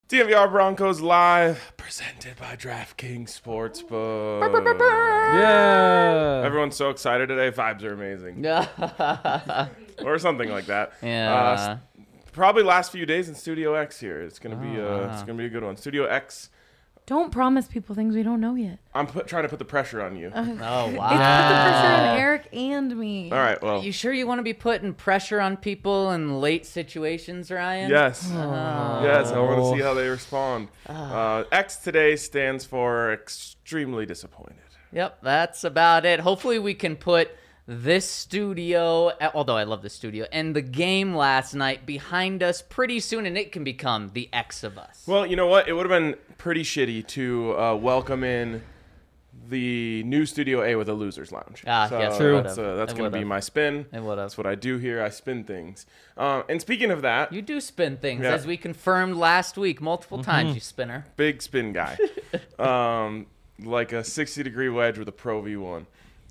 DNVR Broncos Live, presented by DraftKings Sportsbook. Yeah. Everyone's so excited today. Vibes are amazing. Or something like that. Yeah. Probably last few days in Studio X here. It's gonna be it's gonna be a good one. Studio X. Don't promise people things we don't know yet. I'm trying to put the pressure on you. Oh, It's wow. put the pressure on Eric and me. All right. Well. You sure you want to be putting pressure on people in late situations, Ryan? Yes. Yes. I want to see how they respond. X today stands for extremely disappointed. Yep, that's about it. Hopefully we can put this studio, although I love the studio, and the game last night behind us pretty soon, and it can become the X of us. Well, you know what? It would have been pretty shitty to welcome in the new Studio A with a loser's lounge. Yes, True. That's It going to be would've. my spin. It would've. That's what I do here. I spin things. And speaking of that, You do spin things, Yeah. as we confirmed last week multiple times, you spinner. big spin guy, like a 60-degree wedge with a Pro V1.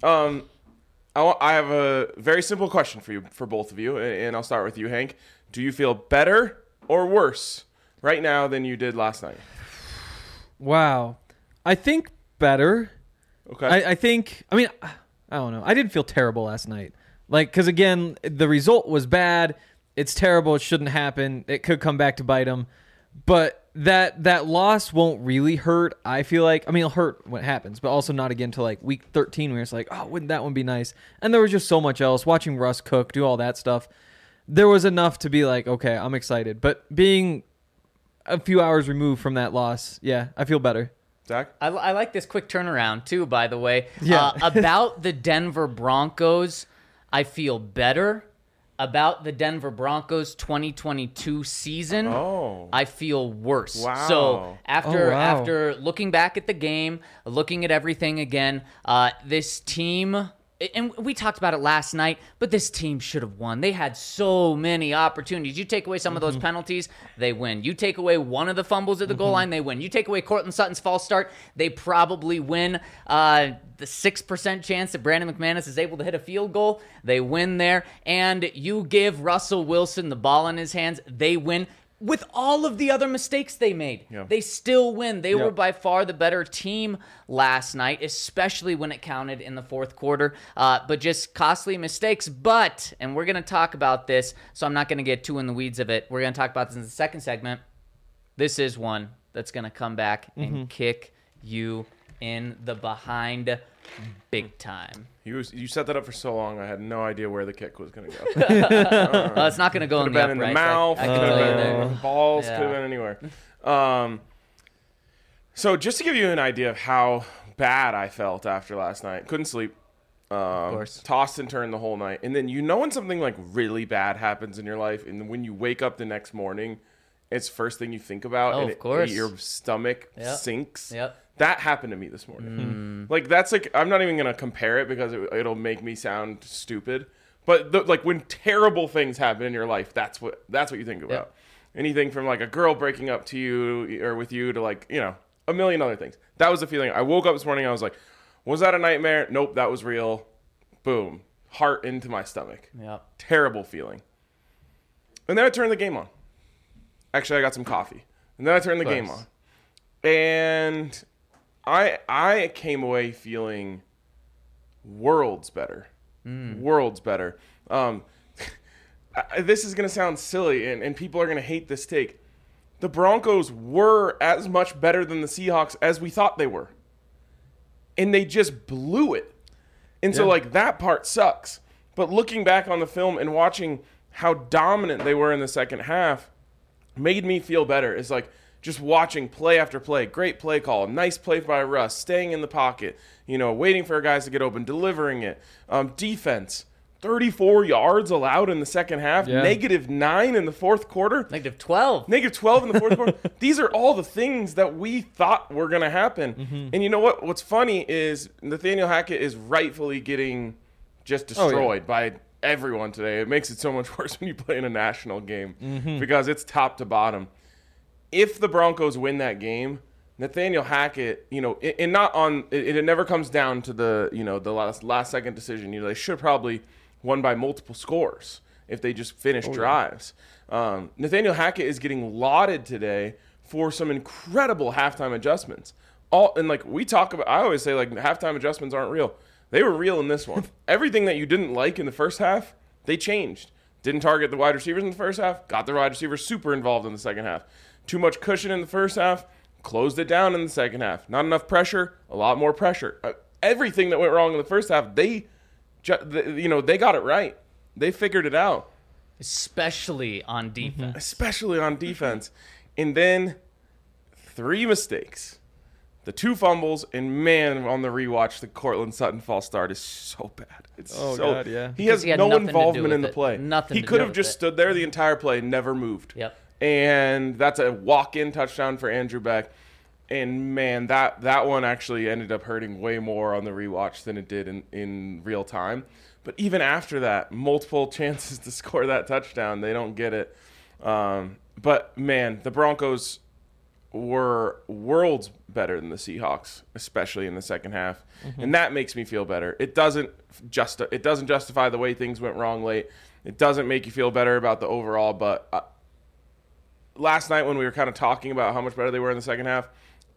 I have a very simple question for both of you, and I'll start with you, Hank. Do you feel better or worse right now than you did last night? Wow. I think better. Okay. I don't know. I didn't feel terrible last night. Because again, the result was bad. It's terrible. It shouldn't happen. It could come back to bite them. But that loss won't really hurt, I feel like. I mean, it'll hurt when it happens, but also not again till week 13 where it's like, oh, wouldn't that one be nice? And there was just so much else. Watching Russ cook, do all that stuff. There was enough to be like, okay, I'm excited. But being a few hours removed from that loss, yeah, I feel better. Zach? I like this quick turnaround, too, by the way. Yeah. About the Denver Broncos, I feel better. About the Denver Broncos 2022 season, I feel worse. Wow. So after wow. after looking back at the game, looking at everything again, this team, and we talked about it last night, but this team should have won. They had so many opportunities. You take away some of those penalties, they win. You take away one of the fumbles at the goal line, they win. You take away Cortland Sutton's false start, they probably win. The 6% chance that Brandon McManus is able to hit a field goal, they win there. And you give Russell Wilson the ball in his hands, they win. With all of the other mistakes they made, they still win. They were by far the better team last night, especially when it counted in the fourth quarter. But just costly mistakes. But, and we're going to talk about this, so I'm not going to get too in the weeds of it. We're going to talk about this in the second segment. This is one that's going to come back and kick you in the behind big time. You set that up for so long, I had no idea where the kick was going to go. It's not going to go in Could the have been in the uprights. mouth, I could can have tell you been there. in the balls, Yeah. could have been anywhere. So just to give you an idea of how bad I felt after last night, couldn't sleep. Of course. Tossed and turned the whole night. And then when something like really bad happens in your life, and when you wake up the next morning, it's first thing you think about, Oh, and of course. your stomach Yep. sinks. Yep. That happened to me this morning. Like that's like I'm not even gonna compare it because it'll make me sound stupid. But like when terrible things happen in your life, that's what you think about. Yep. Anything from like a girl breaking up to you or with you to like a million other things. That was the feeling. I woke up this morning. I was like, was that a nightmare? Nope, that was real. Boom, heart into my stomach. Yep. Terrible feeling. And then I turned the game on. Actually, I got some coffee. And then I turned the game on. And I came away feeling worlds better. Worlds better. This is going to sound silly, and people are going to hate this take. The Broncos were as much better than the Seahawks as we thought they were. And they just blew it. And so, like, that part sucks. But looking back on the film and watching how dominant they were in the second half made me feel better. It's like just watching play after play, great play call, nice play by Russ, staying in the pocket, waiting for guys to get open, delivering it. Defense, 34 yards allowed in the second half, -9 in the fourth quarter. -12. -12 in the fourth quarter. These are all the things that we thought were going to happen. And you know what? What's funny is Nathaniel Hackett is rightfully getting just destroyed by everyone today. It makes it so much worse when you play in a national game because it's top to bottom. If the Broncos win that game, Nathaniel Hackett, and not on it never comes down to the the last second decision. They should probably won by multiple scores if they just finish drives. Nathaniel Hackett is getting lauded today for some incredible halftime adjustments. I always say like halftime adjustments aren't real. They were real in this one. Everything that you didn't like in the first half, they changed. Didn't target the wide receivers in the first half, got the wide receivers super involved in the second half. Too much cushion in the first half, closed it down in the second half. Not enough pressure, a lot more pressure. Everything that went wrong in the first half, they got it right. They figured it out. Especially on defense. And then 3 mistakes. The 2 fumbles, and man, on the rewatch, the Cortland Sutton false start is so bad. God, yeah. He has no involvement in the play. Nothing. He could have just stood there the entire play, never moved. Yep. And that's a walk-in touchdown for Andrew Beck. And man, that one actually ended up hurting way more on the rewatch than it did in real time. But even after that, multiple chances to score that touchdown, they don't get it. But man, the Broncos were worlds better than the Seahawks, especially in the second half, and that makes me feel better. It doesn't justify the way things went wrong late. It doesn't make you feel better about the overall. But last night when we were kind of talking about how much better they were in the second half,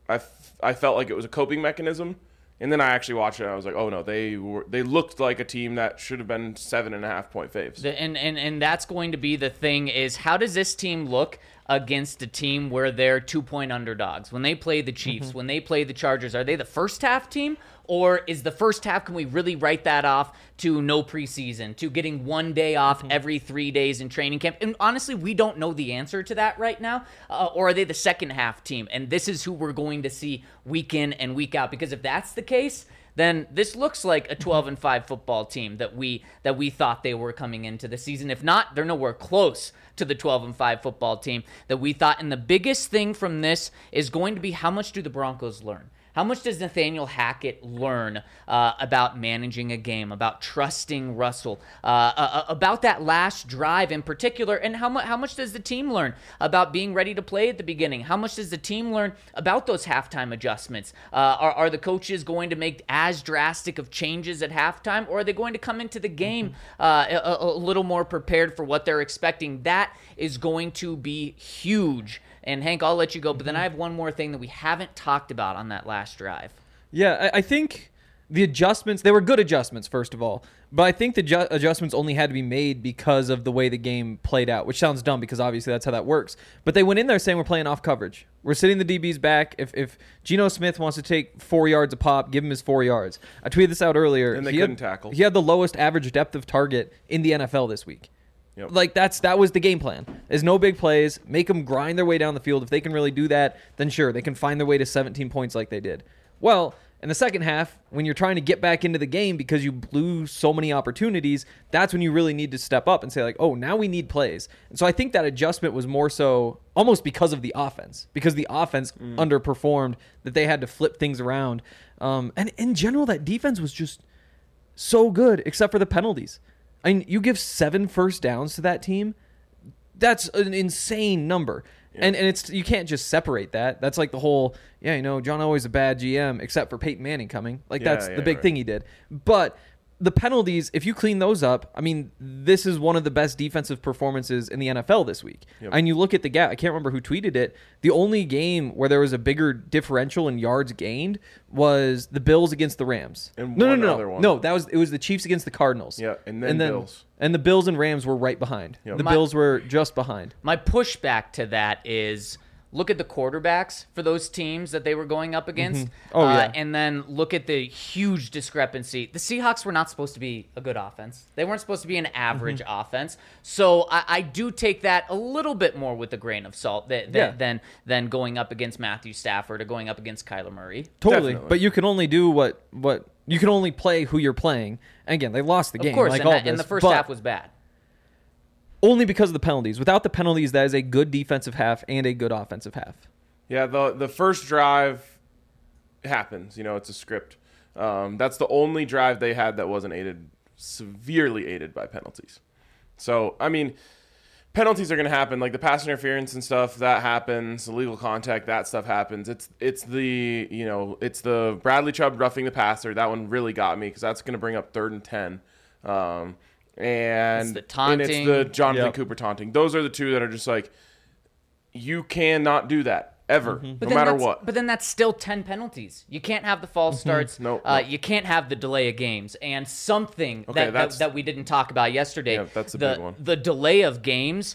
I felt like it was a coping mechanism. And then I actually watched it, and I was like, oh, no, they looked like a team that should have been 7.5-point faves. And that's going to be the thing is, how does this team look against a team where they're 2-point underdogs? When they play the Chiefs, when they play the Chargers, are they the first half team? Or is the first half, can we really write that off to no preseason, to getting 1 day off every 3 days in training camp? And honestly, we don't know the answer to that right now. Or are they the second half team? And this is who we're going to see week in and week out. Because if that's the case, then this looks like a 12-5 football team that we thought they were coming into the season. If not, they're nowhere close to the 12-5 football team that we thought. And the biggest thing from this is going to be, how much do the Broncos learn? How much does Nathaniel Hackett learn about managing a game, about trusting Russell, about that last drive in particular, and how much does the team learn about being ready to play at the beginning? How much does the team learn about those halftime adjustments? Are the coaches going to make as drastic of changes at halftime, or are they going to come into the game a little more prepared for what they're expecting? That is going to be huge. And Hank, I'll let you go, but then I have one more thing that we haven't talked about on that last drive. Yeah, I think the adjustments, they were good adjustments, first of all, but I think the adjustments only had to be made because of the way the game played out, which sounds dumb because obviously that's how that works. But they went in there saying we're playing off coverage. We're sitting the DBs back. If Geno Smith wants to take 4 yards a pop, give him his 4 yards. I tweeted this out earlier. And they couldn't tackle. He had the lowest average depth of target in the NFL this week. Yep. Like that was the game plan. There's no big plays. Make them grind their way down the field. If they can really do that, then sure, they can find their way to 17 points like they did. Well, in the second half, when you're trying to get back into the game because you blew so many opportunities, that's when you really need to step up and say like, oh, now we need plays. And so I think that adjustment was more so almost because of the offense, because the offense underperformed, that they had to flip things around. And in general, that defense was just so good, except for the penalties. I mean, you give 7 first downs to that team. That's an insane number. Yeah. And it's, you can't just separate that. That's like the whole, John Elway's a bad GM, except for Peyton Manning coming. Like, that's the big thing he did. But the penalties, if you clean those up, I mean, this is one of the best defensive performances in the NFL this week. Yep. And you look at the gap, I can't remember who tweeted it. The only game where there was a bigger differential in yards gained was the Bills against the Rams. And No, it was the Chiefs against the Cardinals. Yeah, and then Bills. And the Bills and Rams were right behind. Yep. The Bills were just behind. My pushback to that is, look at the quarterbacks for those teams that they were going up against. And then look at the huge discrepancy. The Seahawks were not supposed to be a good offense. They weren't supposed to be an average offense. So I do take that a little bit more with a grain of salt than going up against Matthew Stafford or going up against Kyler Murray. Totally. Definitely. But you can only do what you can only play who you're playing. And again, they lost the game. Of course, like and the first half was bad. Only because of the penalties. Without the penalties, that is a good defensive half and a good offensive half. Yeah, the first drive happens. It's a script. That's the only drive they had that wasn't severely aided by penalties. So, I mean, penalties are going to happen. Like the pass interference and stuff, that happens. Illegal contact, that stuff happens. It's the Bradley Chubb roughing the passer. That one really got me because that's going to bring up 3rd and 10. And it's the taunting. And it's the Jonathan Cooper taunting. Those are the two that are just like, you cannot do that. ever, But no then matter that's- what. But then that's still 10 penalties. You can't have the false starts. No. You can't have the delay of games. And something Okay, that we didn't talk about yesterday. Yeah, that's a big one. The delay of games.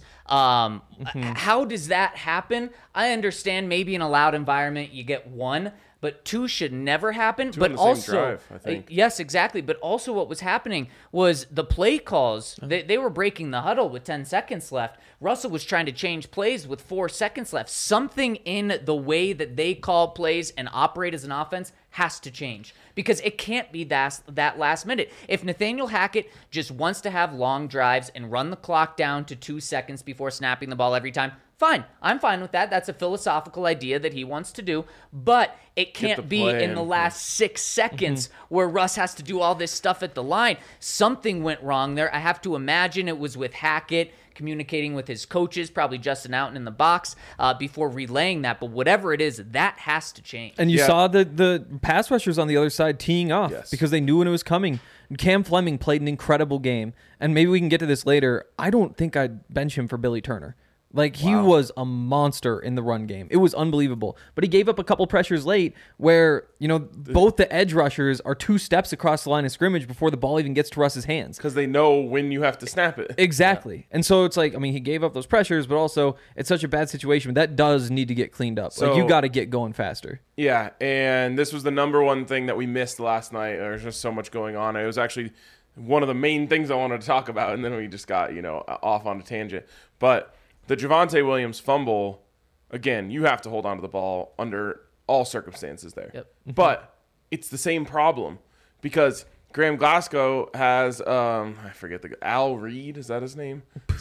How does that happen? I understand maybe in a loud environment you get one, but two should never happen. Two but on the same also, drive, I think. yes, exactly. But also, what was happening was the play calls. They were breaking the huddle with 10 seconds left. Russell was trying to change plays with 4 seconds left. Something in the way that they call plays and operate as an offense has to change because it can't be that last minute. If Nathaniel Hackett just wants to have long drives and run the clock down to 2 seconds before snapping the ball every time, fine. I'm fine with that. That's a philosophical idea that he wants to do, but it can't be play in the in. last 6 seconds where Russ has to do all this stuff at the line. Something went wrong there. I have to imagine it was with Hackett communicating with his coaches, probably Justin Outen in the box, before relaying that. But whatever it is, that has to change. And you Yeah. saw the pass rushers on the other side teeing off Yes. because they knew when it was coming. Cam Fleming played an incredible game. And maybe we can get to this later. I don't think I'd bench him for Billy Turner. Like, he was a monster in the run game. It was unbelievable. But he gave up a couple pressures late where, both the edge rushers are 2 steps across the line of scrimmage before the ball even gets to Russ's hands. Because they know when you have to snap it. Exactly. And so it's like, he gave up those pressures, but also it's such a bad situation. That does need to get cleaned up. So- you got to get going faster. Yeah, and this was the number one thing that we missed last night. There's just so much going on. It was actually one of the main things I wanted to talk about, and then we just got, off on a tangent. But the Javonte Williams fumble, again, you have to hold on to the ball under all circumstances there. Yep. But it's the same problem because Graham Glasgow has, I forget Al Reed, is that his name?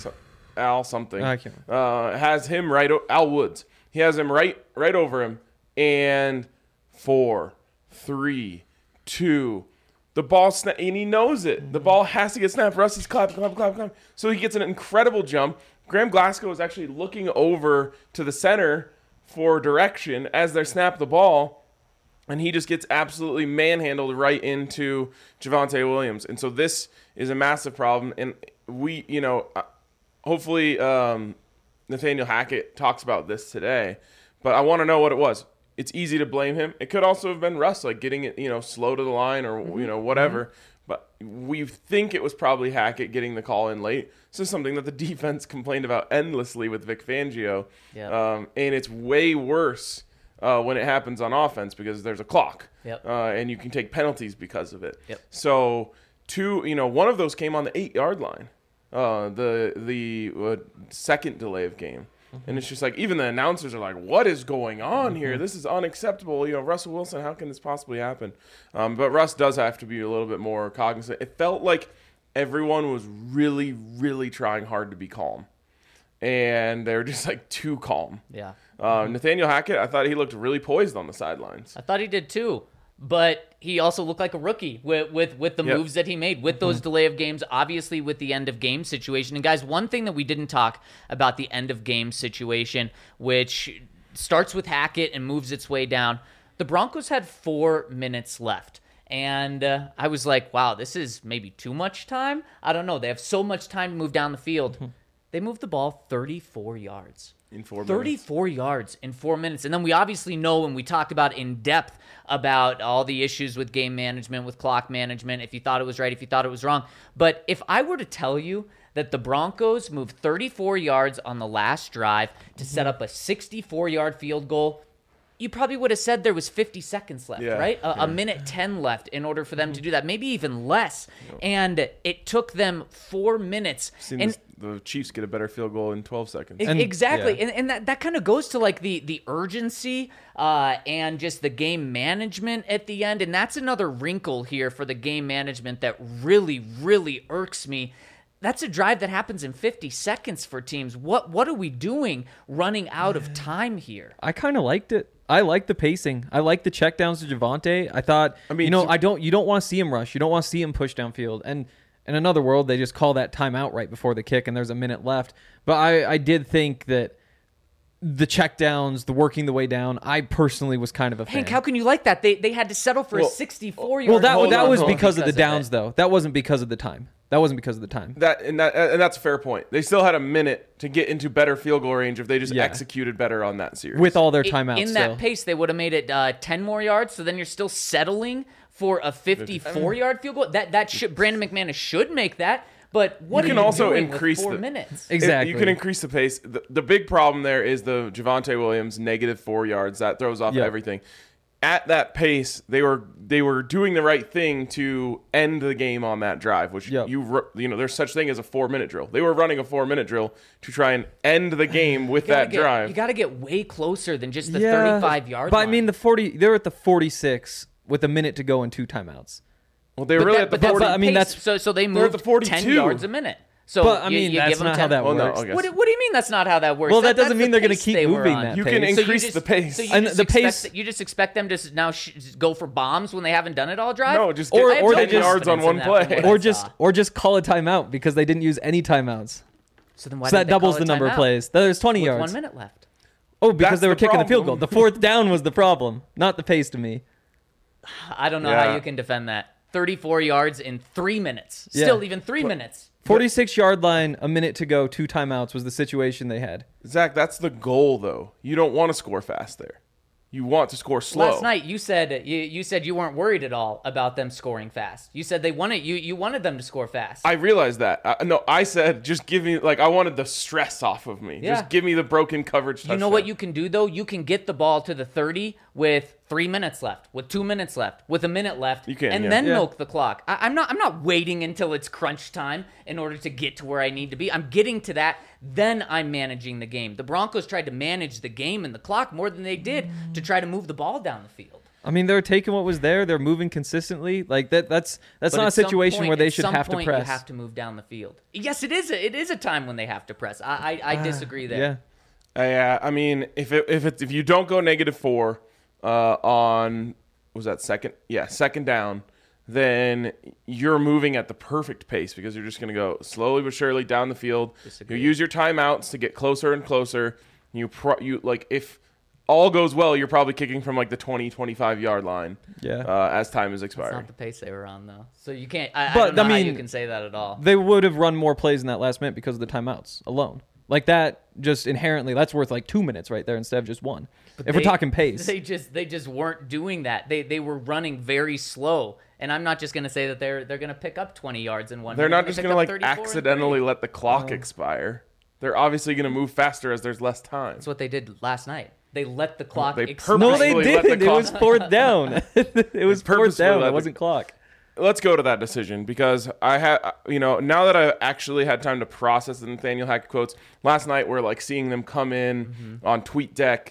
Al something. I can't remember. Has him Al Woods. He has him right over him. And 4, 3, 2, the ball and he knows it. The ball has to get snapped. Russ is clap. So he gets an incredible jump. Graham Glasgow is actually looking over to the center for direction as they snap the ball, and he just gets absolutely manhandled right into Javonte Williams. And so this is a massive problem. And we, hopefully Nathaniel Hackett talks about this today, but I want to know what it was. It's easy to blame him. It could also have been Russ, like getting it, slow to the line or, whatever. But we think it was probably Hackett getting the call in late. This is something that the defense complained about endlessly with Vic Fangio. Yeah. And it's way worse when it happens on offense because there's a clock. Yep. And you can take penalties because of it. Yep. So, one of those came on the 8-yard line. The second delay of game. And it's just like, even the announcers are like, what is going on here? This is unacceptable. Russell Wilson, how can this possibly happen? But Russ does have to be a little bit more cognizant. It felt like everyone was really, really trying hard to be calm. And they were just like too calm. Yeah. Nathaniel Hackett, I thought he looked really poised on the sidelines. I thought he did too, but he also looked like a rookie with the Yep. moves that he made, with those delay of games, obviously with the end of game situation. And guys, one thing that we didn't talk about the end of game situation, which starts with Hackett and moves its way down. The Broncos had 4 minutes left. And I was like, wow, this is maybe too much time. I don't know. They have so much time to move down the field. They moved the ball 34 yards. In 4 minutes. 34 yards in 4 minutes. And then we obviously know, and we talked about in depth about all the issues with game management, with clock management, if you thought it was right, if you thought it was wrong. But if I were to tell you that the Broncos moved 34 yards on the last drive to set up a 64-yard field goal, you probably would have said there was 50 seconds left, Yeah, right? A minute 10 left in order for them to do that, maybe even less. And it took them 4 minutes. Seen the Chiefs get a better field goal in 12 seconds. And- Exactly. yeah. And that kind of goes to like the urgency and just the game management at the end. And that's another wrinkle here for the game management that really, really irks me. That's a drive that happens in 50 seconds for teams. What are we doing running out of time here? I kind of liked it. I like the pacing. I like the checkdowns to Javonte. I thought, you don't want to see him rush. You don't want to see him push downfield. And in another world, they just call that timeout right before the kick, and there's a minute left. But I did think that the checkdowns, the working the way down, I personally was kind of a fan. Hank, how can you like that? They had to settle for a 64-yard. Well, that Hold was on. because of the it. downs, though. That wasn't because of the time. That wasn't because of the time. And that's a fair point. They still had a minute to get into better field goal range if they just Yeah. executed better on that series. With all their timeouts in still. that pace, they would have made it 10 more yards. So then you're still settling for a 54-yard field goal. Brandon McManus should make that. But what You are can you also doing increase with 4 the- minutes? Exactly. You can increase the pace. The big problem there is the Javonte Williams -4 yards. That throws off Yep. everything. At that pace, they were doing the right thing to end the game on that drive, which Yep. there's such thing as a 4-minute drill. They were running a 4-minute drill to try and end the game with that drive. You got to get way closer than just the 35-yard But line. I mean, they were at the 46 with a minute to go and 2 timeouts. Well, they were really at the 40. but I mean, pace, that's- so they at moved the 42. 10 yards a minute. So But, I you- mean, you that's give them not 10 how that Well, no, works. I guess. What do you mean that's not how that works? Well, that doesn't that's mean the they're gonna pace keep they were moving on. that You pace. can So increase the pace. So you And just the expect pace- you just expect them to now go for bombs when they haven't done it all drive? No, just Or- get or 10 they just- yards on one play. Or just call a timeout because they didn't use any timeouts. So then why So did that they call doubles a the number of timeout plays. There's 20 with yards. 1 minute left? Oh, because That's they were the kicking the field goal. problem. The 4th down was the problem, not the pace to me. I don't know Yeah. how you can defend that. 34 yards in 3 minutes. Yeah. Still, even 3 minutes. 46-yard line, a minute to go, 2 timeouts was the situation they had. Zach, that's the goal, though. You don't want to score fast there. You want to score slow. Last night you said you weren't worried at all about them scoring fast. You said they wanted you wanted them to score fast. I realized that. I said just give me I wanted the stress off of me. Yeah. Just give me the broken coverage touchdown. You know what you can do though? You can get the ball to the 30 with 3 minutes left, with 2 minutes left, with a minute left, You can, and yeah. then Yeah. milk the clock. I'm not waiting until it's crunch time in order to get to where I need to be. I'm getting to that, then I'm managing the game. The Broncos tried to manage the game and the clock more than they did to try to move the ball down the field. I mean, they're taking what was there. They're moving consistently. Like that's But not a at some situation point- where they at should some have to point, press. You have to move down the field. Yes, it is. It is a time when they have to press. I disagree there. Yeah. Yeah, I mean, if you don't go -4 on was that second down, then you're moving at the perfect pace because you're just going to go slowly but surely down the field. Disagree. You use your timeouts to get closer and closer. You if all goes well, you're probably kicking from like the 20-25 yard line. Yeah. As time is It's expiring. not the pace they were on though, so you can't. I But, don't know I how you mean, can say that at all. They would have run more plays in that last minute because of the timeouts alone. Like that, just inherently, that's worth like 2 minutes right there instead of just 1. If we're talking pace. They just weren't doing that. They were running very slow. And I'm not just going to say that they're going to pick up 20 yards in 1 They're minute. not just pick going to up like 34 and accidentally 30. let the clock expire. They're obviously going to move faster as there's less time. That's what they did last night. They let the clock They expire. No, they purposefully let the didn't. It clock- was 4th down. It was 4th purposefully down. let It the- wasn't clock. Let's go to that decision because I had, now that I actually had time to process the Nathaniel Hackett quotes, last night we're like seeing them come in on TweetDeck,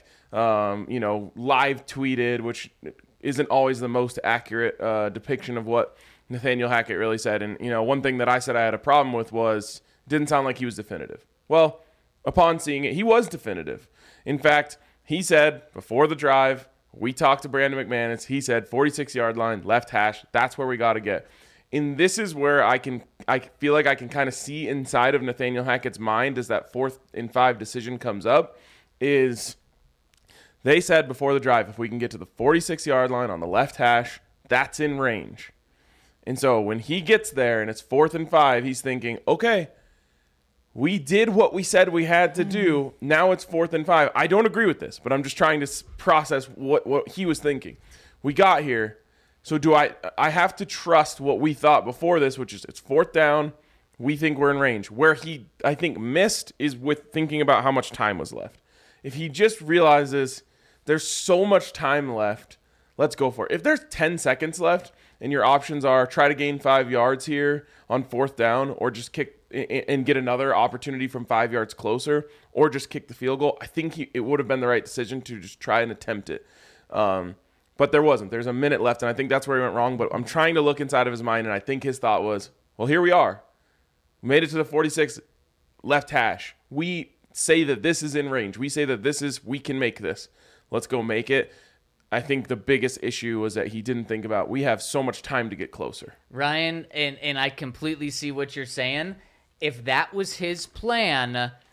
live tweeted, which isn't always the most accurate depiction of what Nathaniel Hackett really said. And, one thing that I said I had a problem with was didn't sound like he was definitive. Well, upon seeing it, he was definitive. In fact, he said before the drive, we talked to Brandon McManus. He said 46-yard line, left hash. That's where we got to get. And this is where I feel like I can kind of see inside of Nathaniel Hackett's mind as that 4th and 5 decision comes up is they said before the drive, if we can get to the 46-yard line on the left hash, that's in range. And so when he gets there and it's 4th and 5, he's thinking, okay, we did what we said we had to do. Now it's 4th and 5. I don't agree with this, but I'm just trying to process what he was thinking. We got here. So do I have to trust what we thought before this, which is it's 4th down. We think we're in range. Where he, I think, missed is with thinking about how much time was left. If he just realizes there's so much time left, let's go for it. If there's 10 seconds left and your options are try to gain 5 yards here on 4th down or just kick and get another opportunity from 5 yards closer or just kick the field goal, I think it would have been the right decision to just try and attempt it. But there wasn't. There's a minute left, and I think that's where he went wrong. But I'm trying to look inside of his mind, and I think his thought was, well, here we are. We made it to the 46 left hash. We say that this is in range. We say that we can make this. Let's go make it. I think the biggest issue was that he didn't think about we have so much time to get closer. Ryan, and I completely see what you're saying. If that was his plan,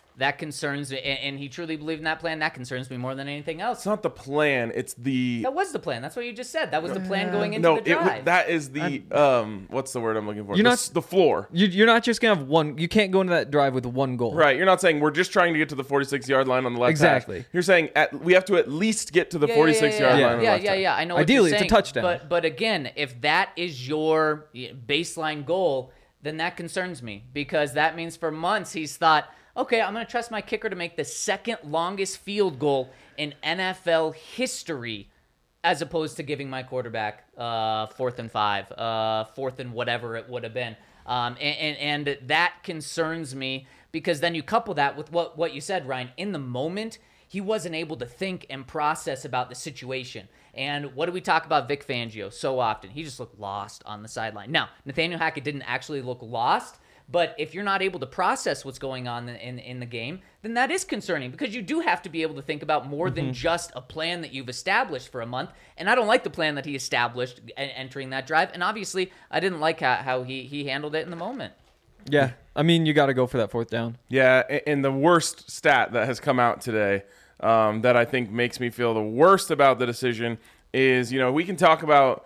That concerns me, and he truly believed in that plan. That concerns me more than anything else. It's not the plan. It's the That was the plan. That's what you just said. That was the plan going into the drive. that is the what's the word I'm looking for? You're The floor. You're not just gonna have one. You can't go into that drive with one goal. Right. You're not saying we're just trying to get to the 46-yard line on the left Exactly. hash. You're saying we have to at least get to the 46-yard line on the left hash. I know. What Ideally, you're it's a saying, touchdown. But again, if that is your baseline goal, then that concerns me because that means for months he's thought, okay, I'm going to trust my kicker to make the second longest field goal in NFL history, as opposed to giving my quarterback 4th and 5, 4th and whatever it would have been. And that concerns me because then you couple that with what you said, Ryan. In the moment, he wasn't able to think and process about the situation. And what do we talk about Vic Fangio so often? He just looked lost on the sideline. Now, Nathaniel Hackett didn't actually look lost, but if you're not able to process what's going on in the game, then that is concerning because you do have to be able to think about more than just a plan that you've established for a month. And I don't like the plan that he established entering that drive. And obviously, I didn't like how he handled it in the moment. Yeah, I mean, you got to go for that 4th down. Yeah, and the worst stat that has come out today that I think makes me feel the worst about the decision is, we can talk about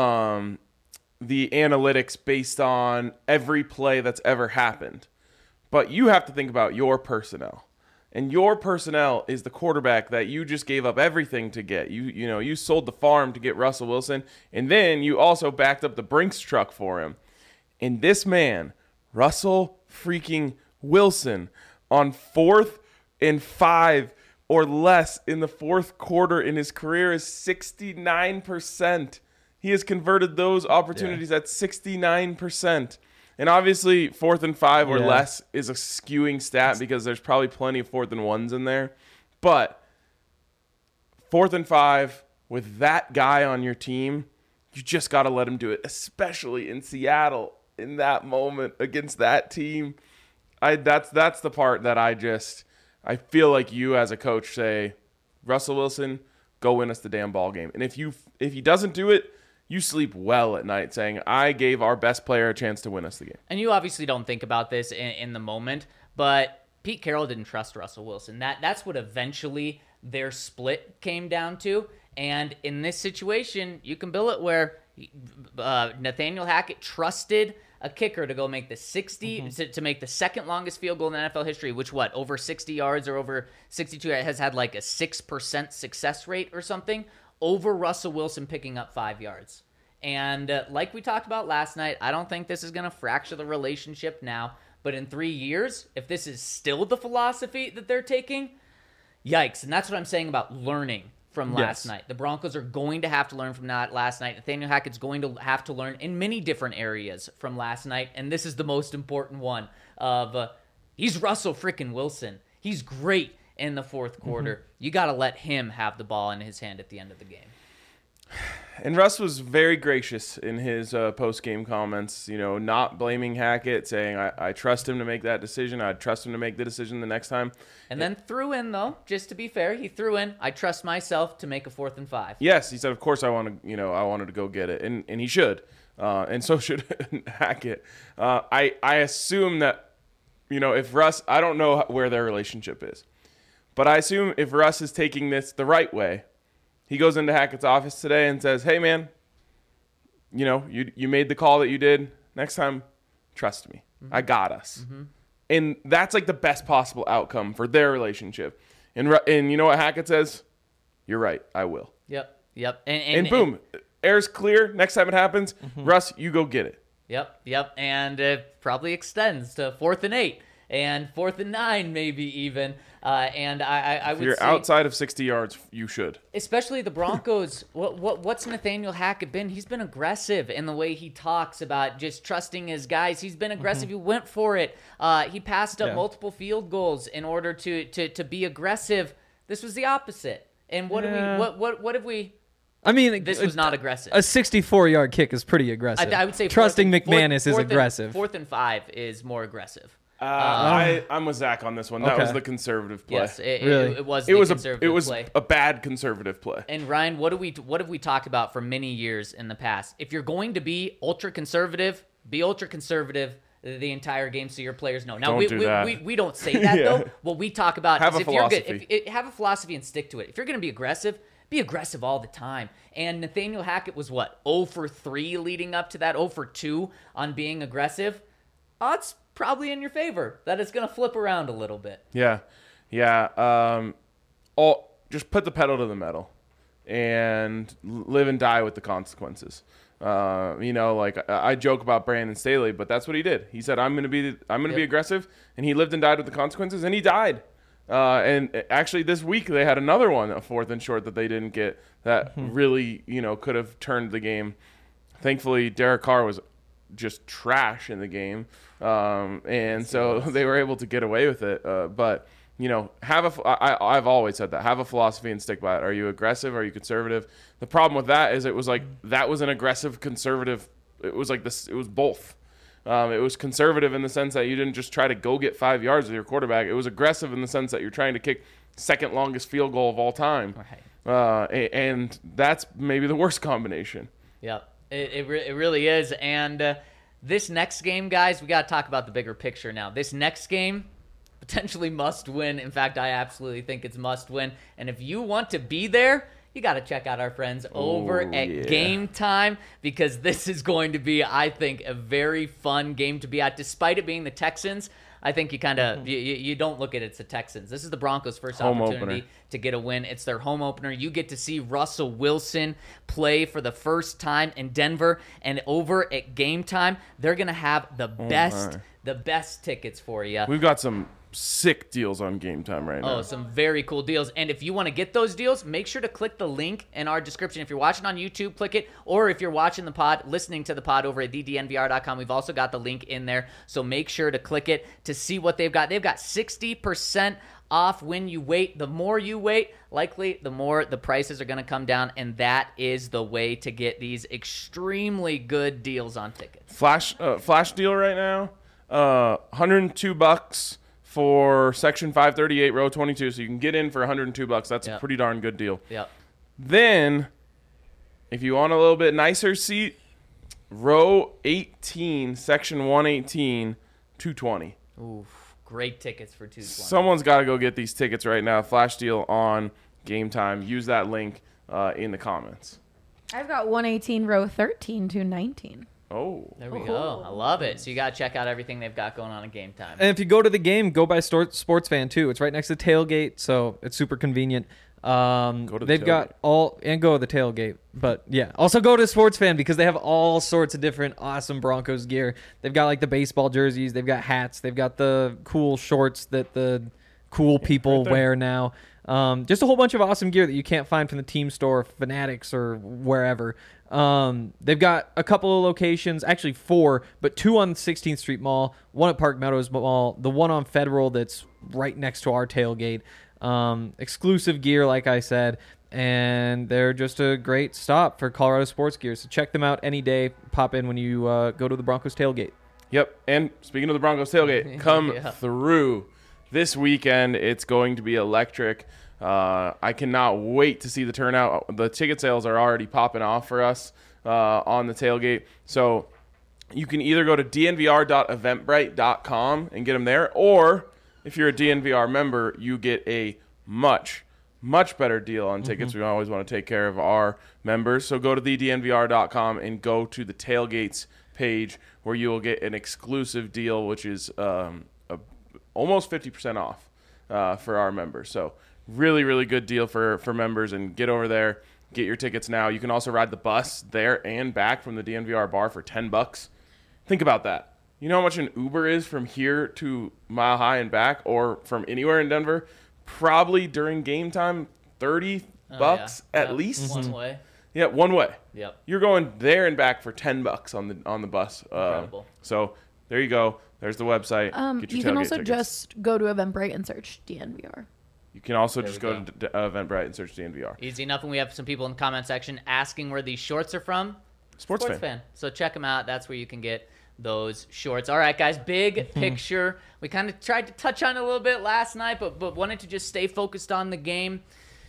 the analytics based on every play that's ever happened, but you have to think about your personnel. And your personnel is the quarterback that you just gave up everything to get. You sold the farm to get Russell Wilson, and then you also backed up the Brinks truck for him. And this man, Russell freaking Wilson, on 4th and 5 or less in the 4th quarter in his career is 69%. He has converted those opportunities at 69%. And obviously, 4th and 5 or less is a skewing stat because there's probably plenty of 4th and 1s in there. But 4th and 5 with that guy on your team, you just got to let him do it, especially in Seattle in that moment against that team. That's the part that I feel like you as a coach say, Russell Wilson, go win us the damn ball game. And if he doesn't do it, you sleep well at night saying, I gave our best player a chance to win us the game. And you obviously don't think about this in the moment, but Pete Carroll didn't trust Russell Wilson. That's what eventually their split came down to. And in this situation, you can bill it where Nathaniel Hackett trusted a kicker to go make the 60 to make the second longest field goal in NFL history, which over 60 yards or over 62 has had like a 6% success rate or something, over Russell Wilson picking up 5 yards. And like we talked about last night, I don't think this is going to fracture the relationship now, but in 3 years, if this is still the philosophy that they're taking, yikes. And that's what I'm saying about learning from last night. The Broncos are going to have to learn from that last night. Nathaniel Hackett's going to have to learn in many different areas from last night, and this is the most important one of he's Russell freaking Wilson. He's great in the 4th quarter. You got to let him have the ball in his hand at the end of the game. And Russ was very gracious in his post-game comments, not blaming Hackett, saying, I trust him to make that decision. I trust him to make the decision the next time. And then threw in, though, just to be fair, he threw in, I trust myself to make a 4th and 5. Yes, he said, of course I wanted to go get it. And he should. And so should Hackett. I assume that, if Russ, I don't know where their relationship is, but I assume if Russ is taking this the right way, he goes into Hackett's office today and says, hey, man, you made the call that you did. Next time, trust me. I got us. And that's like the best possible outcome for their relationship. And you know what Hackett says? You're right. I will. Yep. And boom, air's clear. Next time it happens, Russ, you go get it. Yep. And it probably extends to 4th and 8 and 4th and 9 maybe even. And I would say, if you're outside of 60 yards, you should. Especially the Broncos. What's Nathaniel Hackett been? He's been aggressive in the way he talks about just trusting his guys. He's been aggressive. He went for it. He passed up multiple field goals in order to be aggressive. This was the opposite. And what have we? I mean, this was not aggressive. A 64-yard kick is pretty aggressive. I would say trusting McManus is aggressive. 4th and 5 is more aggressive. I'm with Zach on this one. That was the conservative play. Yes, Really? it was the conservative play. A bad conservative play. And Ryan, what have we talked about for many years in the past? If you're going to be ultra conservative, be ultra conservative the entire game so your players know. Now, Don't do that. we don't say that, Yeah. though. What we talk about Have is a philosophy. have a philosophy and stick to it. If you're going to be aggressive all the time. And Nathaniel Hackett was, 0 for 3 leading up to that, 0 for 2 on being aggressive. Odds probably in your favor that it's going to flip around a little bit. Yeah. Just put the pedal to the metal and live and die with the consequences. I joke about Brandon Staley, but that's what he did. He said, "I'm going to be aggressive," and he lived and died with the consequences, and he died. And actually, this week they had another one, a 4th and short that they didn't get that really, could have turned the game. Thankfully, Derek Carr was just trash in the game, and so they were able to get away with it. But I've always said that. Have a philosophy and stick by it. Are you aggressive? Are you conservative? The problem with that is it was like that was an aggressive conservative. It was like this. It was both. It was conservative in the sense that you didn't just try to go get 5 yards with your quarterback. It was aggressive in the sense that you're trying to kick second longest field goal of all time. Right. And that's maybe the worst combination. Yep. It really is. And this next game, guys, we got to talk about the bigger picture now. This next game, potentially must win. In fact, I absolutely think it's must win. And if you want to be there, you got to check out our friends over at Game Time, because this is going to be, I think, a very fun game to be at. Despite it being the Texans, I think you kind of you don't look at it's the Texans. This is the Broncos' first opportunity to get a win. It's their home opener. You get to see Russell Wilson play for the first time in Denver, and over at Game Time, they're going to have the best tickets for you. We've got some sick deals on Game Time right now. Oh, some very cool deals. And if you want to get those deals, make sure to click the link in our description. If you're watching on YouTube, click it. Or if you're watching the pod, listening to the pod over at thednvr.com, we've also got the link in there. So make sure to click it to see what they've got. They've got 60% off when you wait. The more you wait, likely the more the prices are going to come down. And that is the way to get these extremely good deals on tickets. Flash deal right now, $102 for section 538, row 22. So you can get in for $102. That's a pretty darn good deal. Yep. Then, if you want a little bit nicer seat, row 18, section 118, $220. Oof, great tickets for $220. Someone's got to go get these tickets right now. Flash deal on Game Time. Use that link in the comments. I've got 118 row 13 to 19. Oh. There we go. I love it. So you got to check out everything they've got going on in Game Time. And if you go to the game, go by Sports Fan too. It's right next to the tailgate, so it's super convenient. Go to the tailgate. Go to the tailgate. But yeah, also go to Sports Fan because they have all sorts of different awesome Broncos gear. They've got like the baseball jerseys, they've got hats, they've got the cool shorts that the cool people wear now. Just a whole bunch of awesome gear that you can't find from the team store, Fanatics, or wherever. They've got a couple of locations, actually 4, but 2 on 16th Street Mall, 1 at Park Meadows Mall, the one on Federal that's right next to our tailgate. Exclusive gear, like I said, and they're just a great stop for Colorado sports gear. So check them out any day. Pop in when you go to the Broncos tailgate. Yep. And speaking of the Broncos tailgate, come through this weekend. It's going to be electric. I cannot wait to see the turnout. The ticket sales are already popping off for us on the tailgate. So you can either go to dnvr.eventbrite.com and get them there, or if you're a DNVR member, you get a much better deal on tickets. We always want to take care of our members. So go to thednvr.com and go to the tailgates page where you will get an exclusive deal, which is almost 50% off for our members. So really, really good deal for members, and get over there, get your tickets now. You can also ride the bus there and back from the DNVR bar for $10. Think about that. You know how much an Uber is from here to Mile High and back, or from anywhere in Denver? Probably during game time, $30 at least. One way. Yeah, one way. Yep. You're going there and back for $10 on the bus. Incredible. So there you go. There's the website. Get your you can tailgate also tickets. just go to Eventbrite and search DNVR. You can also just we go to Eventbrite and search DNVR. Easy enough. And we have some people in the comment section asking where these shorts are from. Sports fan. So check them out. That's where you can get those shorts. All right, guys, big picture. We kind of tried to touch on it a little bit last night, but wanted to just stay focused on the game.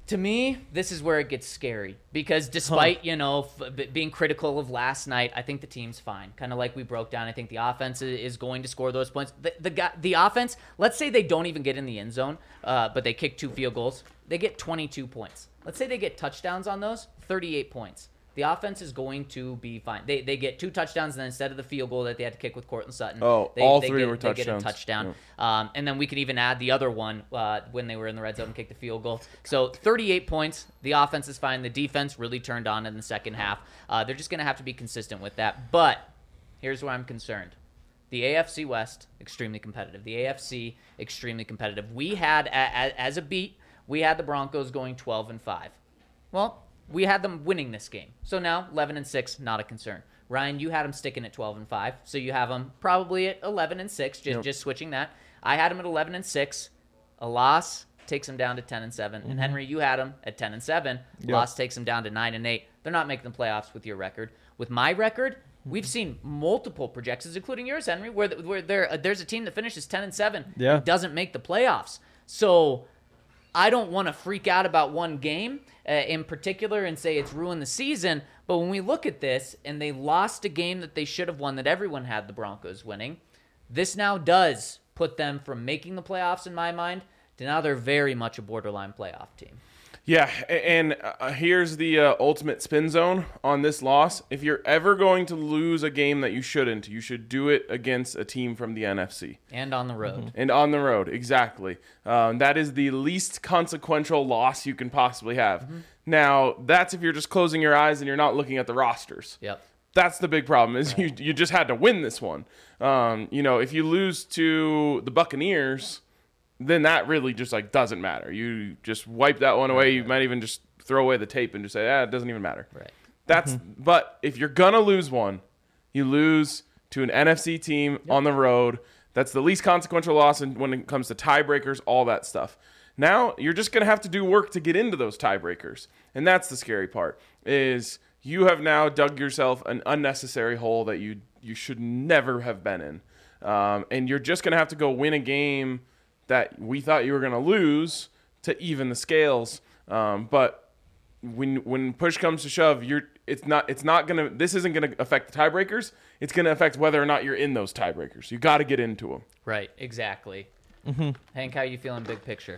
To me, this is where it gets scary because despite, being critical of last night, I think the team's fine. Kind of like we broke down. I think the offense is going to score those points. The offense, let's say they don't even get in the end zone, but they kick 2 field goals. They get 22 points. Let's say they get touchdowns on those, 38 points. The offense is going to be fine. They get 2 touchdowns, and then instead of the field goal that they had to kick with Cortland Sutton, all three were they get a touchdowns. touchdown. Yeah. And then we could even add the other one when they were in the red zone and kicked the field goal. So 38 points. The offense is fine. The defense really turned on in the second half. They're just going to have to be consistent with that. But here's where I'm concerned. The AFC West, extremely competitive. The AFC, extremely competitive. We had, as a beat, we had the Broncos going 12-5. Well, we had them winning this game. So now 11-6, not a concern. Ryan, you had them sticking at 12-5. So you have them probably at 11-6, just switching that. I had them at 11-6. A loss takes them down to 10-7. And Henry, you had them at 10-7. Loss takes them down to 9-8. They're not making the playoffs with your record. With my record, we've seen multiple projections, including yours, Henry, where there's a team that finishes 10-7 and doesn't make the playoffs. So I don't want to freak out about one game in particular and say it's ruined the season. But when we look at this and they lost a game that they should have won that everyone had the Broncos winning, this now does put them from making the playoffs in my mind to now they're very much a borderline playoff team. Yeah, and here's the ultimate spin zone on this loss. If you're ever going to lose a game that you should do it against a team from the NFC. And on the road. And on the road, exactly. That is the least consequential loss you can possibly have. Now, that's if you're just closing your eyes and you're not looking at the rosters. Yep. That's the big problem is you just had to win this one. If you lose to the Buccaneers, then that really just doesn't matter. You just wipe that one away. You might even just throw away the tape and just say, it doesn't even matter. Right. But if you're gonna lose one, you lose to an NFC team on the road. That's the least consequential loss when it comes to tiebreakers, all that stuff. Now you're just gonna have to do work to get into those tiebreakers, and that's the scary part. Is you have now dug yourself an unnecessary hole that you should never have been in, and you're just gonna have to go win a game that we thought you were going to lose to even the scales. But when push comes to shove, this isn't going to affect the tiebreakers. It's going to affect whether or not you're in those tiebreakers. You got to get into them. Right, exactly. Hank, how are you feeling big picture?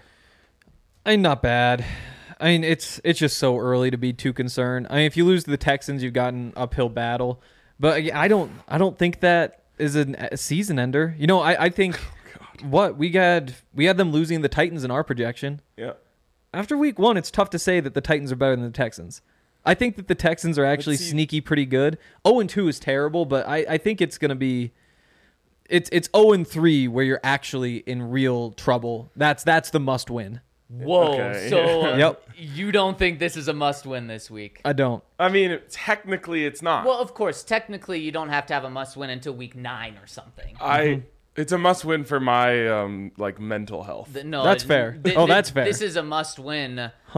Not bad. It's just so early to be too concerned. If you lose to the Texans, you've got an uphill battle. But I don't think that is a season ender. I think what we had them losing the Titans in our projection. Yeah. After week 1, it's tough to say that the Titans are better than the Texans. I think that the Texans are actually sneaky pretty good. 0-2 is terrible, but I think it's going to be it's 0-3 where you're actually in real trouble. That's the must win. Whoa. Okay. So you don't think this is a must win this week? I don't. Technically it's not. Well, of course, technically you don't have to have a must win until week 9 or something. It's a must-win for my mental health. That's fair. That's fair. This is a must-win.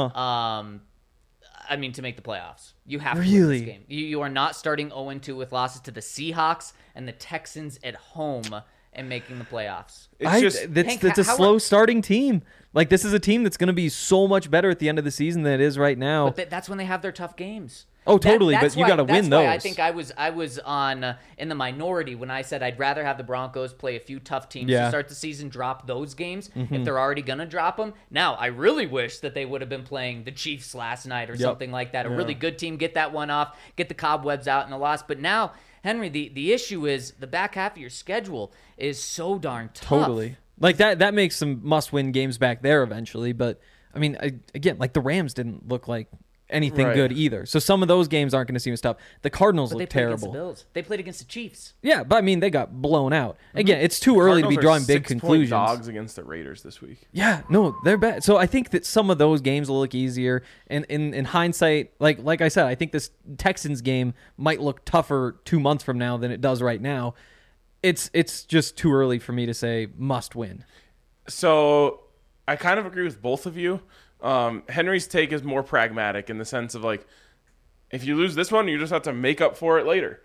To make the playoffs, you have to win Really? this game. You are not starting 0-2 with losses to the Seahawks and the Texans at home and making the playoffs. It's a slow starting team. This is a team that's going to be so much better at the end of the season than it is right now. But that's when they have their tough games. Oh, totally, but you got to win those. I think I was on in the minority when I said I'd rather have the Broncos play a few tough teams to start the season, drop those games if they're already going to drop them. Now, I really wish that they would have been playing the Chiefs last night or something like that. A really good team, get that one off, get the cobwebs out in the loss. But now, Henry, the issue is the back half of your schedule is so darn tough. Totally. That makes some must-win games back there eventually. But, the Rams didn't look like anything good either. So some of those games aren't going to seem as tough. The Cardinals look terrible. Against the Bills. They played against the Chiefs. Yeah, but they got blown out. Again, it's too early to be drawing big conclusions. Dogs against the Raiders this week. Yeah, no, they're bad. So I think that some of those games will look easier. And in hindsight, like I said, I think this Texans game might look tougher 2 months from now than it does right now. It's just too early for me to say must win. So I kind of agree with both of you. Henry's take is more pragmatic in the sense of if you lose this one, you just have to make up for it later.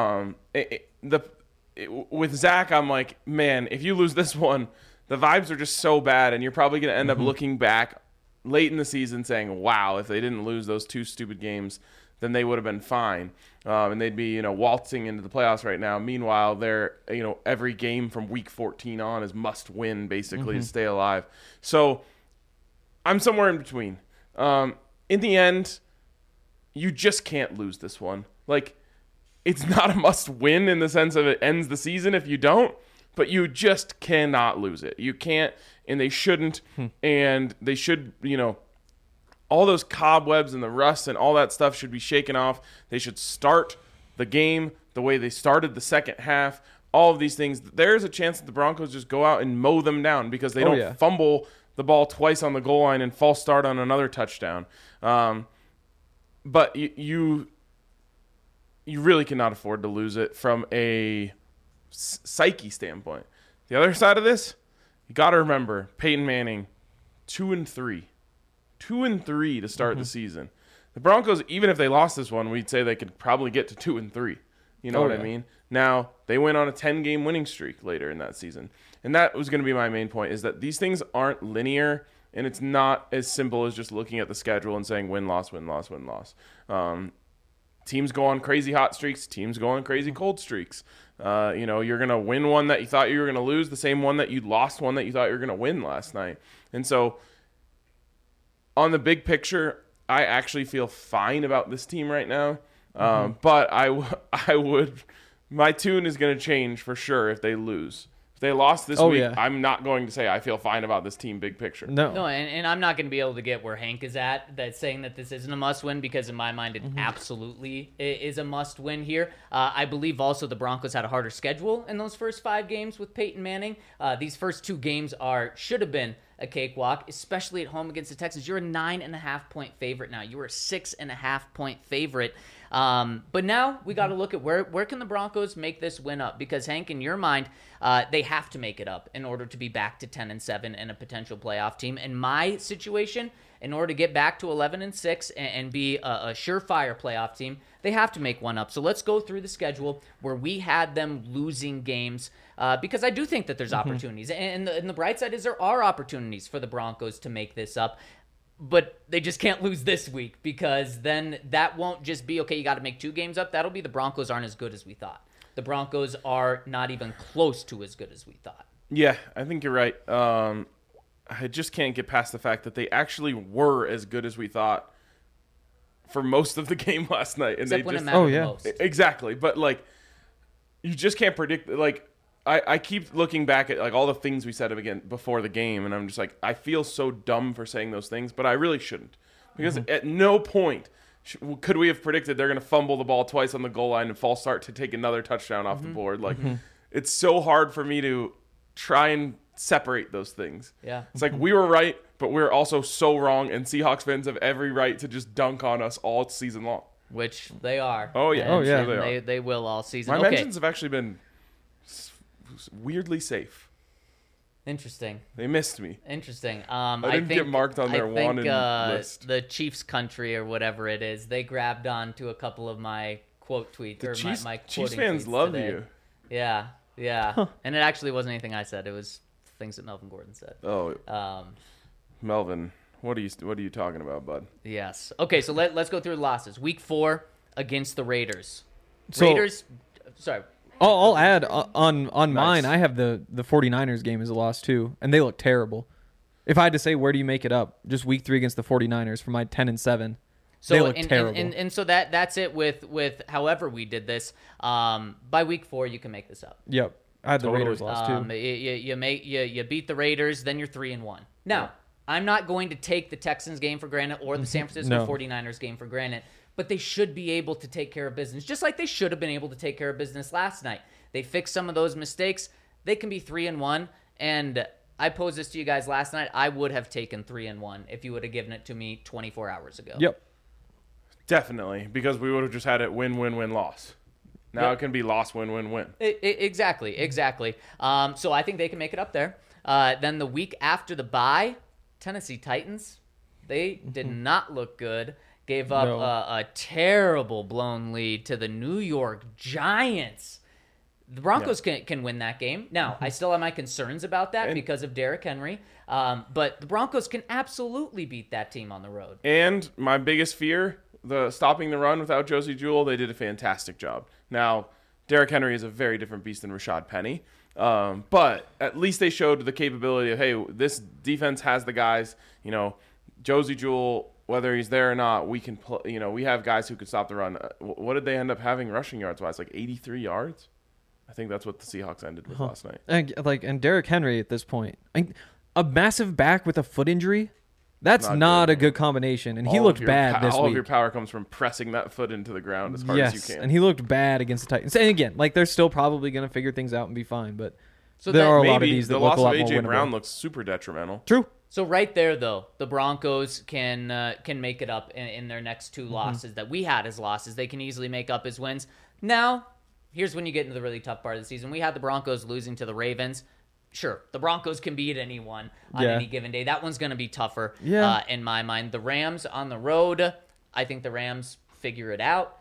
With Zach, I'm like, man, if you lose this one, the vibes are just so bad, and you're probably going to end up looking back late in the season saying, wow, if they didn't lose those 2 stupid games, then they would have been fine. And they'd be, waltzing into the playoffs right now. Meanwhile, they're, every game from week 14 on is must win basically to stay alive. So I'm somewhere in between. In the end, you just can't lose this one. Like, it's not a must win in the sense of it ends the season if you don't, but you just cannot lose it. You can't, and they shouldn't, and they should, all those cobwebs and the rust and all that stuff should be shaken off. They should start the game the way they started the second half. All of these things. There's a chance that the Broncos just go out and mow them down because they don't fumble the ball twice on the goal line and false start on another touchdown. But you really cannot afford to lose it from a psyche standpoint. The other side of this, you got to remember Peyton Manning, 2-3. 2-3 to start the season. The Broncos, even if they lost this one, we'd say they could probably get to 2-3. You know what I mean? Now, they went on a 10-game winning streak later in that season. And that was going to be my main point, is that these things aren't linear, and it's not as simple as just looking at the schedule and saying win, loss, win, loss, win, loss. Teams go on crazy hot streaks. Teams go on crazy cold streaks. You're going to win one that you thought you were going to lose, the same one that you lost one that you thought you were going to win last night. And so on the big picture, I actually feel fine about this team right now. But I would, my tune is going to change for sure if they lose. If they lost this week, I'm not going to say I feel fine about this team big picture. No, and I'm not going to be able to get where Hank is at, that's saying that this isn't a must-win, because in my mind it absolutely is a must-win here. I believe also the Broncos had a harder schedule in those first 5 games with Peyton Manning. These first 2 games should have been a cakewalk, especially at home against the Texans. You're a 9.5-point favorite now. You were a 6.5-point favorite. But now we got to look at where can the Broncos make this win up? Because Hank, in your mind, they have to make it up in order to be back to 10-7 and a potential playoff team. In my situation, in order to get back to 11-6 and be a surefire playoff team, they have to make one up. So let's go through the schedule where we had them losing games, because I do think that there's opportunities. And the bright side is there are opportunities for the Broncos to make this up. But they just can't lose this week, because then that won't just be, okay, you got to make 2 games up. That'll be the Broncos aren't as good as we thought. The Broncos are not even close to as good as we thought. Yeah, I think you're right. I just can't get past the fact that they actually were as good as we thought for most of the game last night. And Except they when just, it mattered the most. Exactly. But, you just can't predict, I keep looking back at all the things we said again before the game, and I'm just I feel so dumb for saying those things, but I really shouldn't, because at no point could we have predicted they're going to fumble the ball twice on the goal line and false start to take another touchdown off the board. It's so hard for me to try and separate those things. Yeah, it's we were right, but we're also so wrong, and Seahawks fans have every right to just dunk on us all season long. Which they are. Oh yeah, and they will all season. My mentions have actually been weirdly safe. Interesting. They missed me. Interesting. I didn't get marked on their wanted list. The Chiefs country or whatever it is, they grabbed on to a couple of my quote tweets. The or my Chiefs fans love today. you. Yeah. Huh. And it actually wasn't anything I said. It was things that Melvin Gordon said. Oh. Melvin, what are you talking about, bud? Yes. Okay, so let's go through the losses. Week 4 against the Raiders. Sorry. I'll add on mine. I have the 49ers game as a loss too, and they look terrible. If I had to say where do you make it up, just week 3 against the 49ers for my 10-7. So they look terrible. And so that's it with however we did this. By week 4 you can make this up. Yep. I had the Raiders loss too. You beat the Raiders, then you're 3-1. Now, I'm not going to take the Texans game for granted or the San Francisco 49ers game for granted. But they should be able to take care of business, just like they should have been able to take care of business last night. They fixed some of those mistakes. They can be 3-1. And I posed this to you guys last night. I would have taken 3-1 if you would have given it to me 24 hours ago. Yep. Definitely, because we would have just had it win, win, win, loss. Now it can be loss, win, win, win. Exactly. So I think they can make it up there. Then the week after the bye, Tennessee Titans, they did not look good. Gave up a terrible blown lead to the New York Giants. The Broncos can win that game. Now, I still have my concerns about that because of Derrick Henry. But the Broncos can absolutely beat that team on the road. And my biggest fear, the stopping the run without Josie Jewell, they did a fantastic job. Now, Derrick Henry is a very different beast than Rashad Penny. But at least they showed the capability of, hey, this defense has the guys, Josie Jewell, whether he's there or not, we can we have guys who could stop the run. What did they end up having rushing yards wise? Like 83 yards? I think that's what the Seahawks ended with last night. And Derrick Henry at this point, a massive back with a foot injury, that's not a good combination. And he looked bad this week. All of your power comes from pressing that foot into the ground as hard as you can. And he looked bad against the Titans. And again, they're still probably going to figure things out and be fine. But there are a lot of these that look a lot more winnable. The loss of A.J. Brown looks super detrimental. True. So right there, though, the Broncos can make it up in their next two losses that we had as losses. They can easily make up as wins. Now, here's when you get into the really tough part of the season. We had the Broncos losing to the Ravens. Sure, the Broncos can beat anyone on any given day. That one's going to be tougher in my mind. The Rams on the road, I think the Rams figure it out.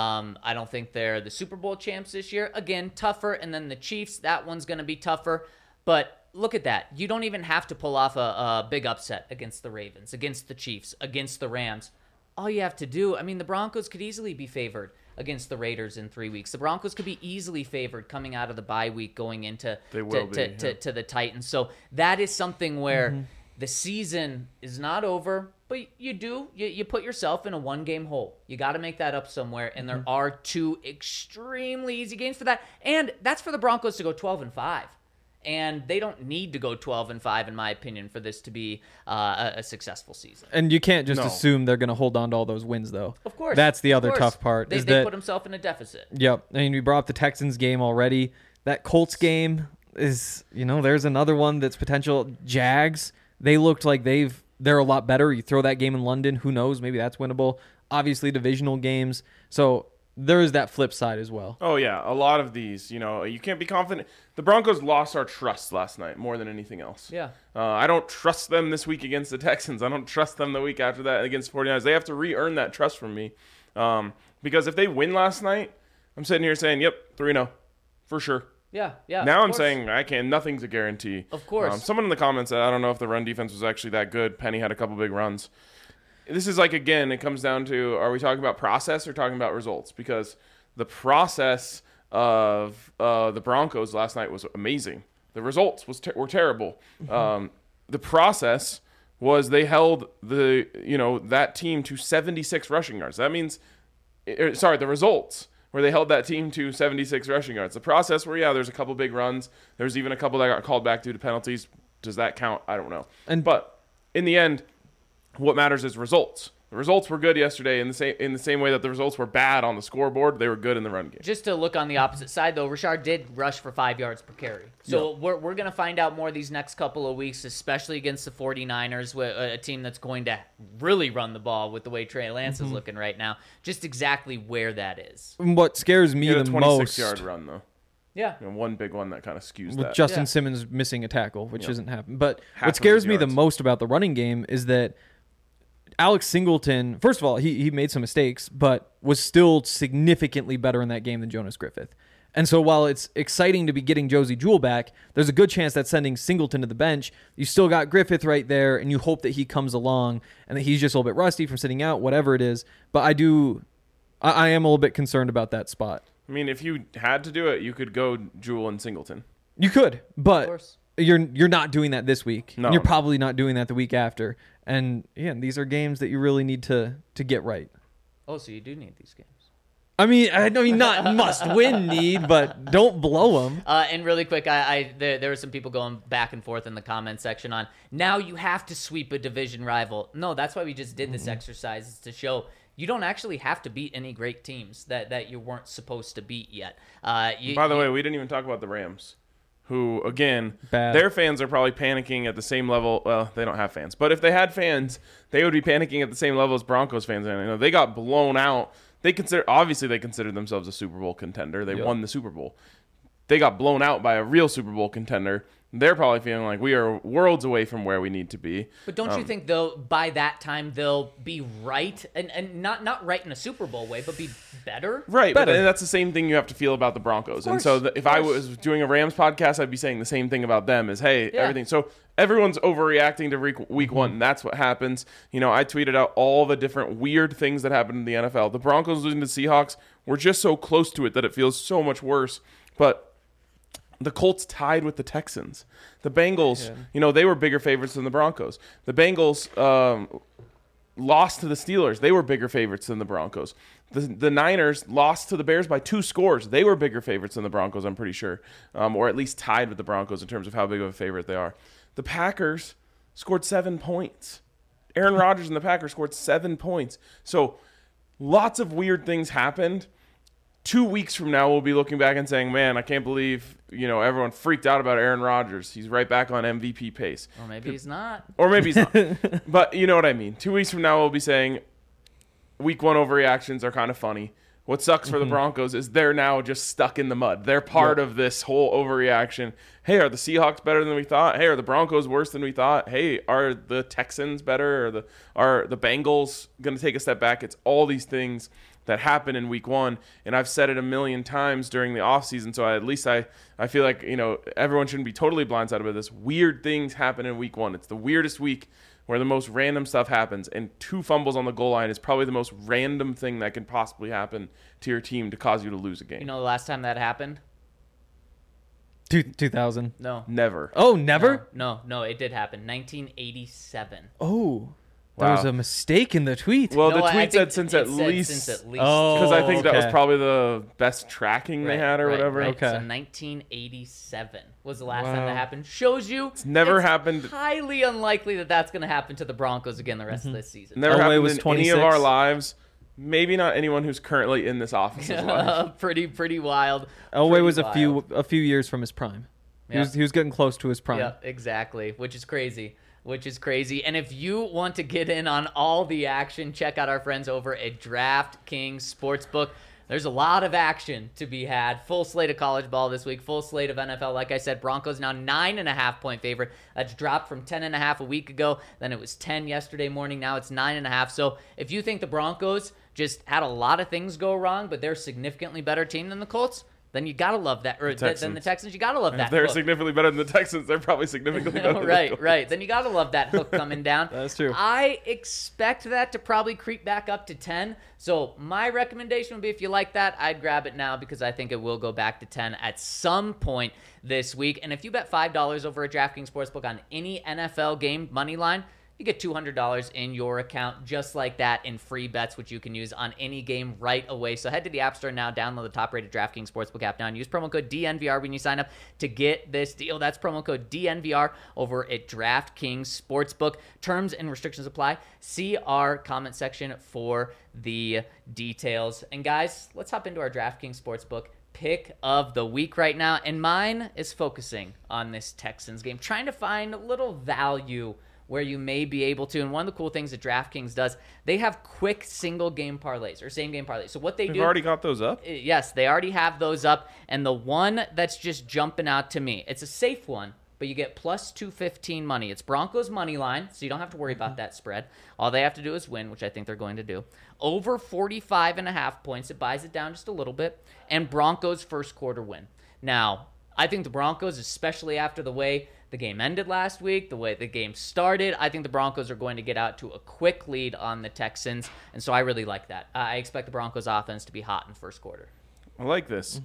I don't think they're the Super Bowl champs this year. Again, tougher. And then the Chiefs, that one's going to be tougher. But look at that. You don't even have to pull off a big upset against the Ravens, against the Chiefs, against the Rams. All you have to do, the Broncos could easily be favored against the Raiders in 3 weeks. The Broncos could be easily favored coming out of the bye week going into to the Titans. So that is something where the season is not over, but you put yourself in a one-game hole. You got to make that up somewhere, and there are two extremely easy games for that. And that's for the Broncos to go 12-5. And they don't need to go 12-5, in my opinion, for this to be a successful season. And you can't just assume they're going to hold on to all those wins, though. Of course. That's the other tough part. They put themselves in a deficit. Yep. We brought up the Texans game already. That Colts game is, there's another one that's potential. Jags, they looked like they're a lot better. You throw that game in London, who knows? Maybe that's winnable. Obviously, divisional games. So there is that flip side as well. Oh, yeah. A lot of these, you can't be confident. The Broncos lost our trust last night more than anything else. Yeah. I don't trust them this week against the Texans. I don't trust them the week after that against 49ers. They have to re-earn that trust from me. Because if they win last night, I'm sitting here saying, yep, 3-0. For sure. Yeah. Now I'm saying nothing's a guarantee. Of course. Someone in the comments said, I don't know if the run defense was actually that good. Penny had a couple big runs. This is again, it comes down to, are we talking about process or talking about results? Because the process of the Broncos last night was amazing. The results were terrible. The process was they held that team to 76 rushing yards. That means, the results where they held that team to 76 rushing yards. The process where, there's a couple big runs. There's even a couple that got called back due to penalties. Does that count? I don't know. But in the end, what matters is results. The results were good yesterday in the same way that the results were bad on the scoreboard. They were good in the run game. Just to look on the opposite side, though, Rashard did rush for 5 yards per carry. So we're going to find out more these next couple of weeks, especially against the 49ers, a team that's going to really run the ball with the way Trey Lance is looking right now, just exactly where that is. What scares me the most... 26-yard run, though. Yeah. One big one that kind of skews with that. Justin Simmons missing a tackle, which isn't happening. But what scares me the most about the running game is that Alex Singleton, first of all, he made some mistakes, but was still significantly better in that game than Jonas Griffith. And so while it's exciting to be getting Josie Jewell back, there's a good chance that sending Singleton to the bench, you still got Griffith right there, and you hope that he comes along and that he's just a little bit rusty from sitting out, whatever it is. But I am a little bit concerned about that spot. I mean, if you had to do it, you could go Jewell and Singleton. You could, but you're not doing that this week. No, you're probably not doing that the week after. And these are games that you really need to get right. Oh, so you do need these games. I mean, not must-win need, but don't blow them. And really quick, there were some people going back and forth in the comment section on, now you have to sweep a division rival. No, that's why we just did this exercise, is to show you don't actually have to beat any great teams that you weren't supposed to beat yet. By the way, we didn't even talk about the Rams, who, again, Bad. Their fans are probably panicking at the same level. Well, they don't have fans. But if they had fans, they would be panicking at the same level as Broncos fans. And, they got blown out. They considered themselves a Super Bowl contender. They won the Super Bowl. They got blown out by a real Super Bowl contender. they're probably feeling like we are worlds away from where we need to be. But don't you think though by that time they'll be right and not right in a Super Bowl way, but be better? Right, Better. but that's the same thing you have to feel about the Broncos. And so if I was doing a Rams podcast, I'd be saying the same thing about them is, hey, everything. So everyone's overreacting to week one. And that's what happens. You know, I tweeted out all the different weird things that happened in the NFL. The Broncos losing to the Seahawks, we're just so close to it that it feels so much worse. But the Colts tied with the Texans. The Bengals, you know, they were bigger favorites than the Broncos. The Bengals lost to the Steelers. They were bigger favorites than the Broncos. The Niners lost to the Bears by 2 scores. They were bigger favorites than the Broncos, I'm pretty sure, or at least tied with the Broncos in terms of how big of a favorite they are. The Packers scored 7 points. Aaron Rodgers and the Packers scored 7 points. So lots of weird things happened. 2 weeks from now, we'll be looking back and saying, man, I can't believe, you know, everyone freaked out about Aaron Rodgers. He's right back on MVP pace. Or maybe he's not. Or maybe he's not. But you know what I mean. 2 weeks from now, we'll be saying week one overreactions are kind of funny. What sucks for the Broncos is they're now just stuck in the mud. They're part of this whole overreaction. Hey, are the Seahawks better than we thought? Hey, are the Broncos worse than we thought? Hey, are the Texans better? Are the Bengals going to take a step back? It's all these things that happened in week one, and I've said it a million times during the offseason, so at least I feel like, you know, everyone shouldn't be totally blindsided by this. Weird things happen in week one. It's the weirdest week where the most random stuff happens, and 2 fumbles on the goal line is probably the most random thing that can possibly happen to your team to cause you to lose a game. You know the last time that happened? 2000. No. Never. Oh, never? No, it did happen. 1987. Oh. There was Wow. a mistake in the tweet. Well, No, the I tweet think said since it at said least, since at least. Oh. because I think that was okay. probably the best tracking they had or whatever. Right. Okay. So 1987 was the last time Wow. that happened. Shows you it's never happened. Highly unlikely that that's going to happen to the Broncos again the rest of this season. Never Elway happened was in any 26. of our lives. Maybe not anyone who's currently in this office's life. Pretty wild. Elway Pretty was wild. a few years from his prime. Yeah. He was getting close to his prime. Yeah, exactly, which is crazy. And if you want to get in on all the action, check out our friends over at DraftKings Sportsbook. There's a lot of action to be had. Full slate of college ball this week, full slate of NFL. Like I said, Broncos now 9.5-point favorite. That's dropped from 10.5 a week ago. Then it was 10 yesterday morning. Now it's 9.5. So if you think the Broncos just had a lot of things go wrong, but they're a significantly better team than the Colts, then you gotta love that. Or than the Texans, you gotta love And that. if they're hook. significantly better than the Texans, they're probably significantly better than the Colts. Right. Then you gotta love that hook coming down. That's true. I expect that to probably creep back up to 10. So my recommendation would be, if you like that, I'd grab it now because I think it will go back to 10 at some point this week. And if you bet $5 over at DraftKings Sportsbook on any NFL game money line, you get $200 in your account just like that in free bets, which you can use on any game right away. So head to the App Store now, download the top-rated DraftKings Sportsbook app now, and use promo code DNVR when you sign up to get this deal. That's promo code DNVR over at DraftKings Sportsbook. Terms and restrictions apply. See our comment section for the details. And guys, let's hop into our DraftKings Sportsbook pick of the week right now. And mine is focusing on this Texans game, trying to find a little value where you may be able to. And one of the cool things that DraftKings does, they have quick single game parlays or same game parlays. So what they We've do, already got those up. yes, they already have those up. And the one that's just jumping out to me, it's a safe one, but you get plus 215 money. It's Broncos money line, so you don't have to worry about that spread. All they have to do is win, which I think they're going to do. Over 45.5 points, it buys it down just a little bit. And Broncos first quarter win. Now, I think the Broncos, especially after the way the game ended last week, the way the game started, I think the Broncos are going to get out to a quick lead on the Texans, and so I really like that. I expect the Broncos offense to be hot in the first quarter. I like this.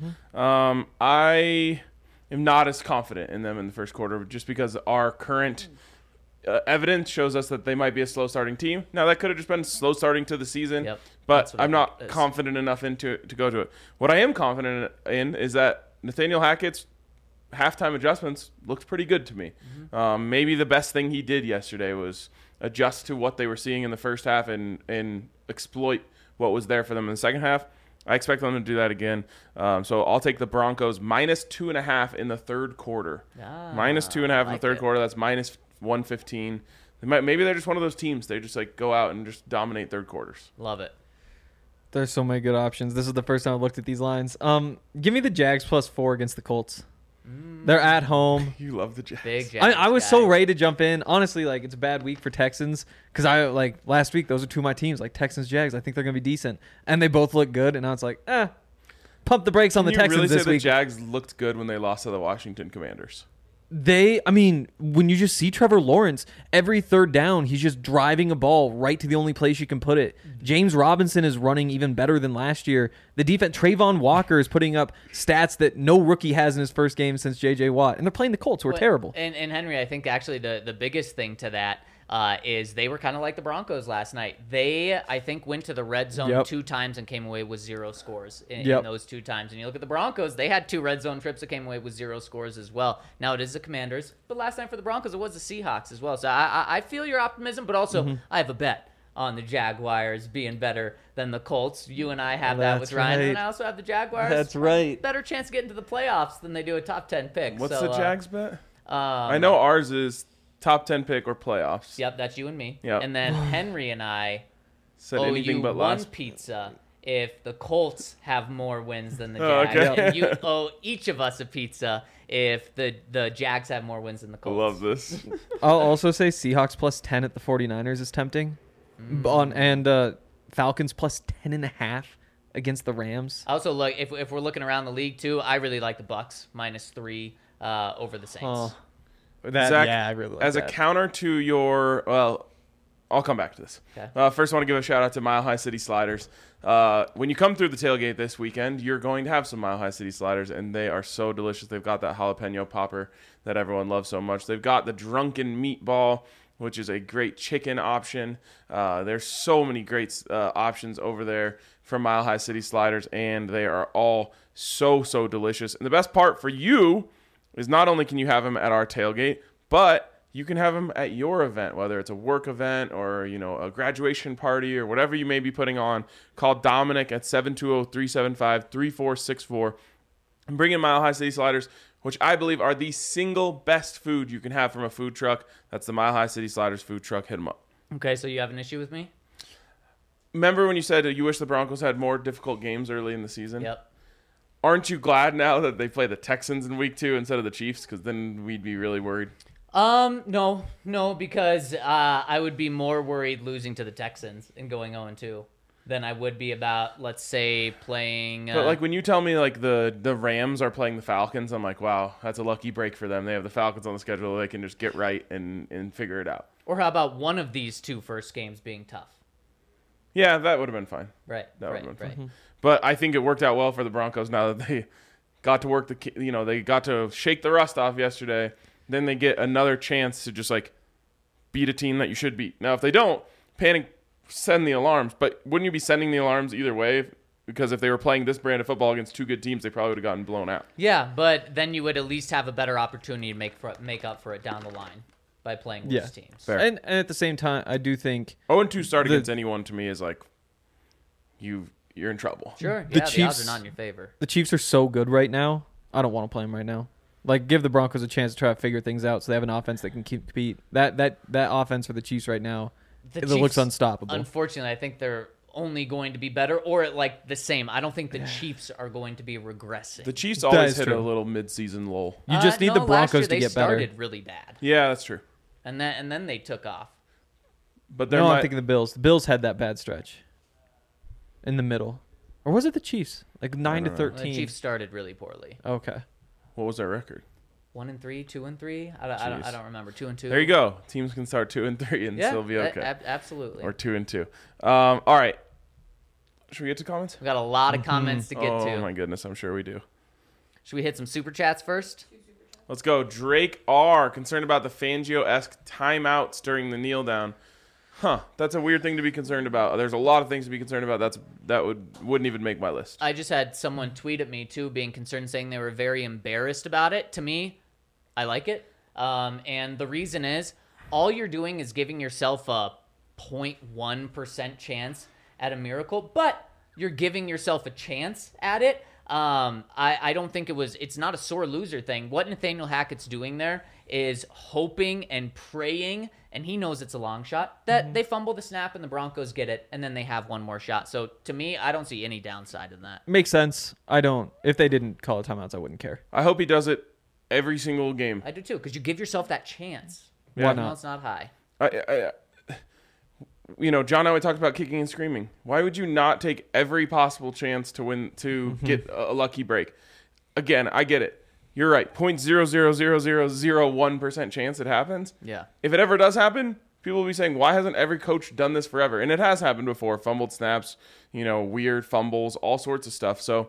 I am not as confident in them in the first quarter just because our current evidence shows us that they might be a slow starting team. Now, that could have just been slow starting to the season, Yep. but That's what I'm I not think it is. confident enough to go to it. What I am confident in is that Nathaniel Hackett's halftime adjustments looked pretty good to me. Maybe the best thing he did yesterday was adjust to what they were seeing in the first half and exploit what was there for them in the second half. I expect them to do that again. So I'll take the Broncos minus 2.5 in the third quarter. Minus 2.5 in the like third it. quarter. That's minus 115. Maybe they're just one of those teams. They just like go out and just dominate third quarters. Love it. There's so many good options. This is the first time I've looked at these lines. Give me the Jags plus 4 against the Colts. They're at home. You love the Jags. Big Jags I was so guy. ready to jump in. Honestly, like it's a bad week for Texans because last week those are two of my teams, like Texans, Jags. I think they're gonna be decent, and they both look good. And now it's like, pump the brakes on the Can you Texans really say this the week. Jags looked good when they lost to the Washington Commanders? When you just see Trevor Lawrence, every third down, he's just driving a ball right to the only place you can put it. James Robinson is running even better than last year. The defense, Trayvon Walker is putting up stats that no rookie has in his first game since J.J. Watt. And they're playing the Colts, who are terrible. And Henry, I think actually the biggest thing to that is they were kind of like the Broncos last night. They, I think, went to the red zone 2 times and came away with 0 scores in those 2 times. And you look at the Broncos, they had 2 red zone trips that came away with 0 scores as well. Now, it is the Commanders, but last night for the Broncos, it was the Seahawks as well. So I feel your optimism, but also I have a bet on the Jaguars being better than the Colts. You and I have that with Ryan, and I also have the Jaguars. That's right. Better chance to get into the playoffs than they do a top 10 pick. What's So, the Jags bet? I know ours is top 10 pick or playoffs. Yep, that's you and me. Yep. And then Henry and I Said owe anything you but one last. pizza if the Colts have more wins than the Oh, Jags. okay. And you owe each of us a pizza if the Jags have more wins than the I Colts. love this. I'll also say Seahawks plus 10 at the 49ers is tempting. And Falcons plus 10.5 against the Rams. Also, look, if we're looking around the league too, I really like the Bucks -3 over the Saints. Oh, Zach, I really like as that. a counter to your, well, I'll come back to this. Okay. First, I want to give a shout out to Mile High City Sliders. When you come through the tailgate this weekend, you're going to have some Mile High City Sliders, and they are so delicious. They've got that jalapeno popper that everyone loves so much. They've got the drunken meatball, which is a great chicken option. There's so many great options over there from Mile High City Sliders, and they are all so delicious. And the best part for you is not only can you have them at our tailgate, but you can have them at your event, whether it's a work event or, a graduation party or whatever you may be putting on. Call Dominic at 720-375-3464 and bring in Mile High City Sliders, which I believe are the single best food you can have from a food truck. That's the Mile High City Sliders food truck. Hit them up. Okay, so you have an issue with me? Remember when you said you wish the Broncos had more difficult games early in the season? Yep. Aren't you glad now that they play the Texans in week 2 instead of the Chiefs? Because then we'd be really worried. No, because I would be more worried losing to the Texans and going 0-2 than I would be about, let's say, playing. But like when you tell me like the Rams are playing the Falcons, I'm like, wow, that's a lucky break for them. They have the Falcons on the schedule; they can just get right and figure it out. Or how about one of these 2 first games being tough? Yeah, that would have been fine. Right. That right. would've been Right. fine. But I think it worked out well for the Broncos now that they got to work they got to shake the rust off yesterday. Then they get another chance to just like beat a team that you should beat. Now, if they don't, panic, send the alarms. But wouldn't you be sending the alarms either way? Because if they were playing this brand of football against 2 good teams, they probably would have gotten blown out. Yeah, but then you would at least have a better opportunity to make up for it down the line by playing worse teams. Fair. And at the same time, I do think 0-2 start against anyone to me is like you're in trouble. Sure. The Yeah, the Chiefs- odds are not in your favor. the Chiefs are so good right now. I don't want to play them right now. Like, give the Broncos a chance to try to figure things out so they have an offense that can compete. That offense for the Chiefs right now, it looks unstoppable. Unfortunately, I think they're only going to be better or at like the same. I don't think the Chiefs are going to be regressing. The Chiefs That always is hit true. a little mid-season lull. You just need no, the last Broncos year to they get better. started really bad, Yeah, that's true. and then they took off. But they're No, I'm not, thinking the Bills. The Bills had that bad stretch in the middle. Or was it the Chiefs? Like 9 to don't know. 13. The Chiefs started really poorly. Okay. what was their record? 1-3, 2-3. I don't remember. 2-2. There you go. Teams can start 2-3 and still be okay. Absolutely. Or 2-2. All right. Should we get to comments? We got a lot of comments to get Oh to. my goodness, I'm sure we do. Should we hit some super chats first? Let's go. Drake R. Concerned about the Fangio-esque timeouts during the kneel down. That's a weird thing to be concerned about. There's a lot of things to be concerned about. That wouldn't even make my list. I just had someone tweet at me too, being concerned, saying they were very embarrassed about it. To me, I like it, and the reason is all you're doing is giving yourself a 0.1% chance at a miracle, but you're giving yourself a chance at it. I don't think it's not a sore loser thing. What Nathaniel Hackett's doing there is hoping and praying, and he knows it's a long shot, that they fumble the snap and the Broncos get it, and then they have one more shot. So to me, I don't see any downside in that. Makes sense. I don't. If they didn't call it timeouts, I wouldn't care. I hope he does it every single game. I do too, because you give yourself that chance. Why Even not? though it's not high. John and I talked about kicking and screaming. Why would you not take every possible chance to win, to get a lucky break? Again, I get it. You're right. 0.00001% chance it happens. Yeah. If it ever does happen, people will be saying, why hasn't every coach done this forever? And it has happened before. Fumbled snaps, weird fumbles, all sorts of stuff. So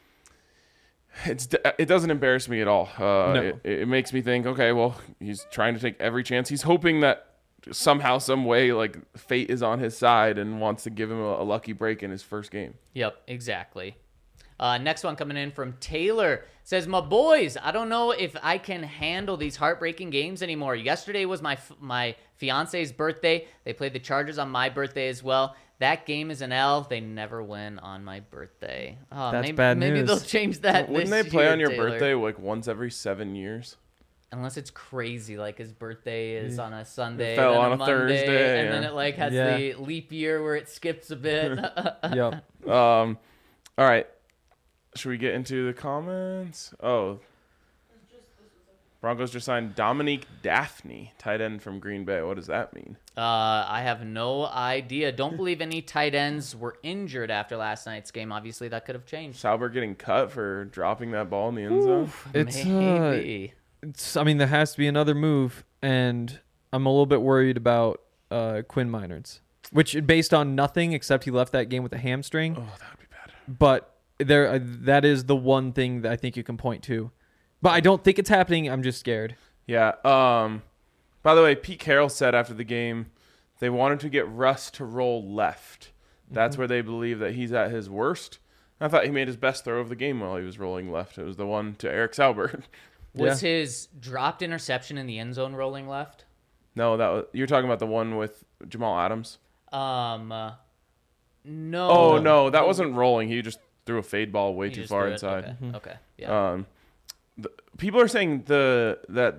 it doesn't embarrass me at all. No. It makes me think, okay, well, he's trying to take every chance. He's hoping that somehow, some way, like fate is on his side and wants to give him a lucky break in his first game. Yep, exactly. Next one coming in from Taylor says, "My boys, I don't know if I can handle these heartbreaking games anymore. Yesterday was my fiance's birthday. They played the Chargers on my birthday as well. That game is an L. They never win on my birthday. Oh, That's bad maybe news. they'll change that. Wouldn't this they play year, on your Taylor. birthday like once every 7 years? Unless it's crazy, like his birthday is on a Sunday, It fell then on a Monday, Thursday, and then yeah. it like has Yeah. the leap year where it skips a bit. Yep. All right. Should we get into the comments? Oh. Broncos just signed Dominique Daphne, tight end from Green Bay. What does that mean? I have no idea. Don't believe any tight ends were injured after last night's game. Obviously, that could have changed. Sauber getting cut for dropping that ball in the end zone? Maybe. There has to be another move, and I'm a little bit worried about Quinn Minards, which based on nothing except he left that game with a hamstring. Oh, that would be bad. But that is the one thing that I think you can point to. But I don't think it's happening. I'm just scared. Yeah. By the way, Pete Carroll said after the game they wanted to get Russ to roll left. That's where they believe that he's at his worst. I thought he made his best throw of the game while he was rolling left. It was the one to Eric Sauber. Was his dropped interception in the end zone rolling left? No, you're talking about the one with Jamal Adams. No. Oh no, that wasn't rolling. He just threw a fade ball way He too just far threw it. inside. Okay. Yeah. People are saying that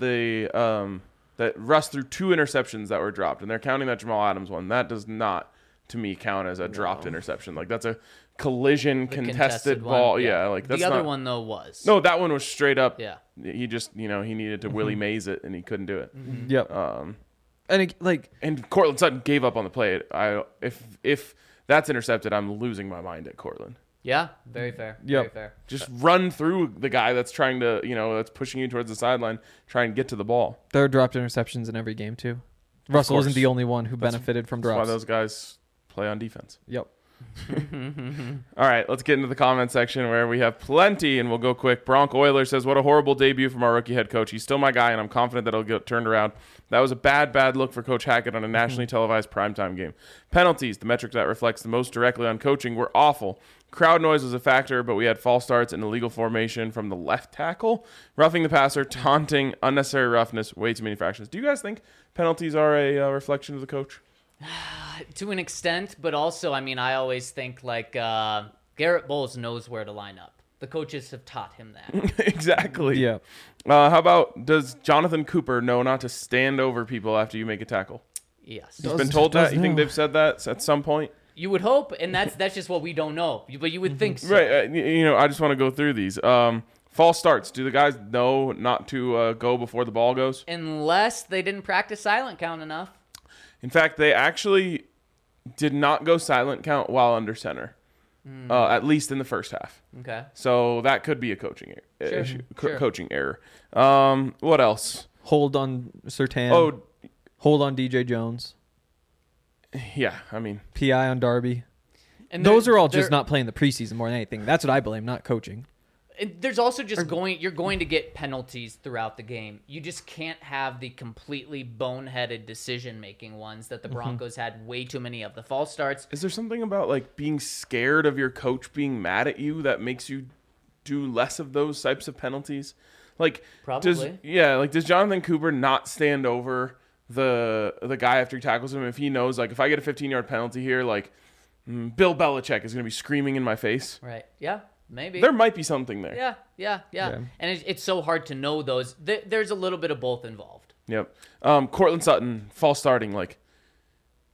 Russ threw 2 interceptions that were dropped, and they're counting that Jamal Adams one. That does not, to me, count as a dropped interception. Like that's a collision The contested one, ball. Yeah, like that's the other not, one though was. No, that one was straight up. Yeah. He just he needed to Willie Mays it, and he couldn't do it. Yep. And And Cortland Sutton gave up on the play. If that's intercepted, I'm losing my mind at Cortland. Yeah. Very fair. Yep. Very fair. Just run through the guy that's trying to, that's pushing you towards the sideline, try and get to the ball. there are dropped interceptions in every game too. Russell isn't course. the only one who benefited from That's why drops. those guys play on defense. Yep. All right, let's get into the comment section where we have plenty, and we'll go quick. Bronc Euler says, what a horrible debut from our rookie head coach. He's still my guy, and I'm confident that he'll get turned around. That was a bad look for Coach Hackett on a nationally televised primetime game. Penalties, the metric that reflects the most directly on coaching, were awful. Crowd noise was a factor, but we had false starts and illegal formation from the left tackle. Roughing the passer, taunting, unnecessary roughness, way too many fractions. Do you guys think penalties are a reflection of the coach? To an extent, but also, I always think like Garrett Bowles knows where to line up. The coaches have taught him that. Exactly. Yeah. How about, does Jonathan Cooper know not to stand over people after you make a tackle? Yes. He's been told does that? You think know. they've said that at some point? You would hope, and that's just what we don't know. But you would think so. Right. I just want to go through these. False starts. Do the guys know not to go before the ball goes? Unless they didn't practice silent count enough. In fact, they actually did not go silent count while under center, at least in the first half. Okay. So that could be a coaching Sure, issue, sure. coaching error. What else? Hold on Surtain. Oh, Hold on DJ Jones. yeah. PI on Darby. And Those are all there- just not playing the preseason more than anything. That's what I blame, not coaching. And there's also just you're going to get penalties throughout the game. You just can't have the completely boneheaded decision-making ones that the Broncos had way too many of. The false starts. Is there something about like being scared of your coach being mad at you that makes you do less of those types of penalties? Like, Probably. does Jonathan Cooper not stand over the guy after he tackles him if he knows, like, if I get a 15-yard penalty here, like, Bill Belichick is going to be screaming in my face? Right. Yeah. Maybe. There might be something there. Yeah. And it's so hard to know those. There's a little bit of both involved. Yep. Cortland Sutton, false starting, like,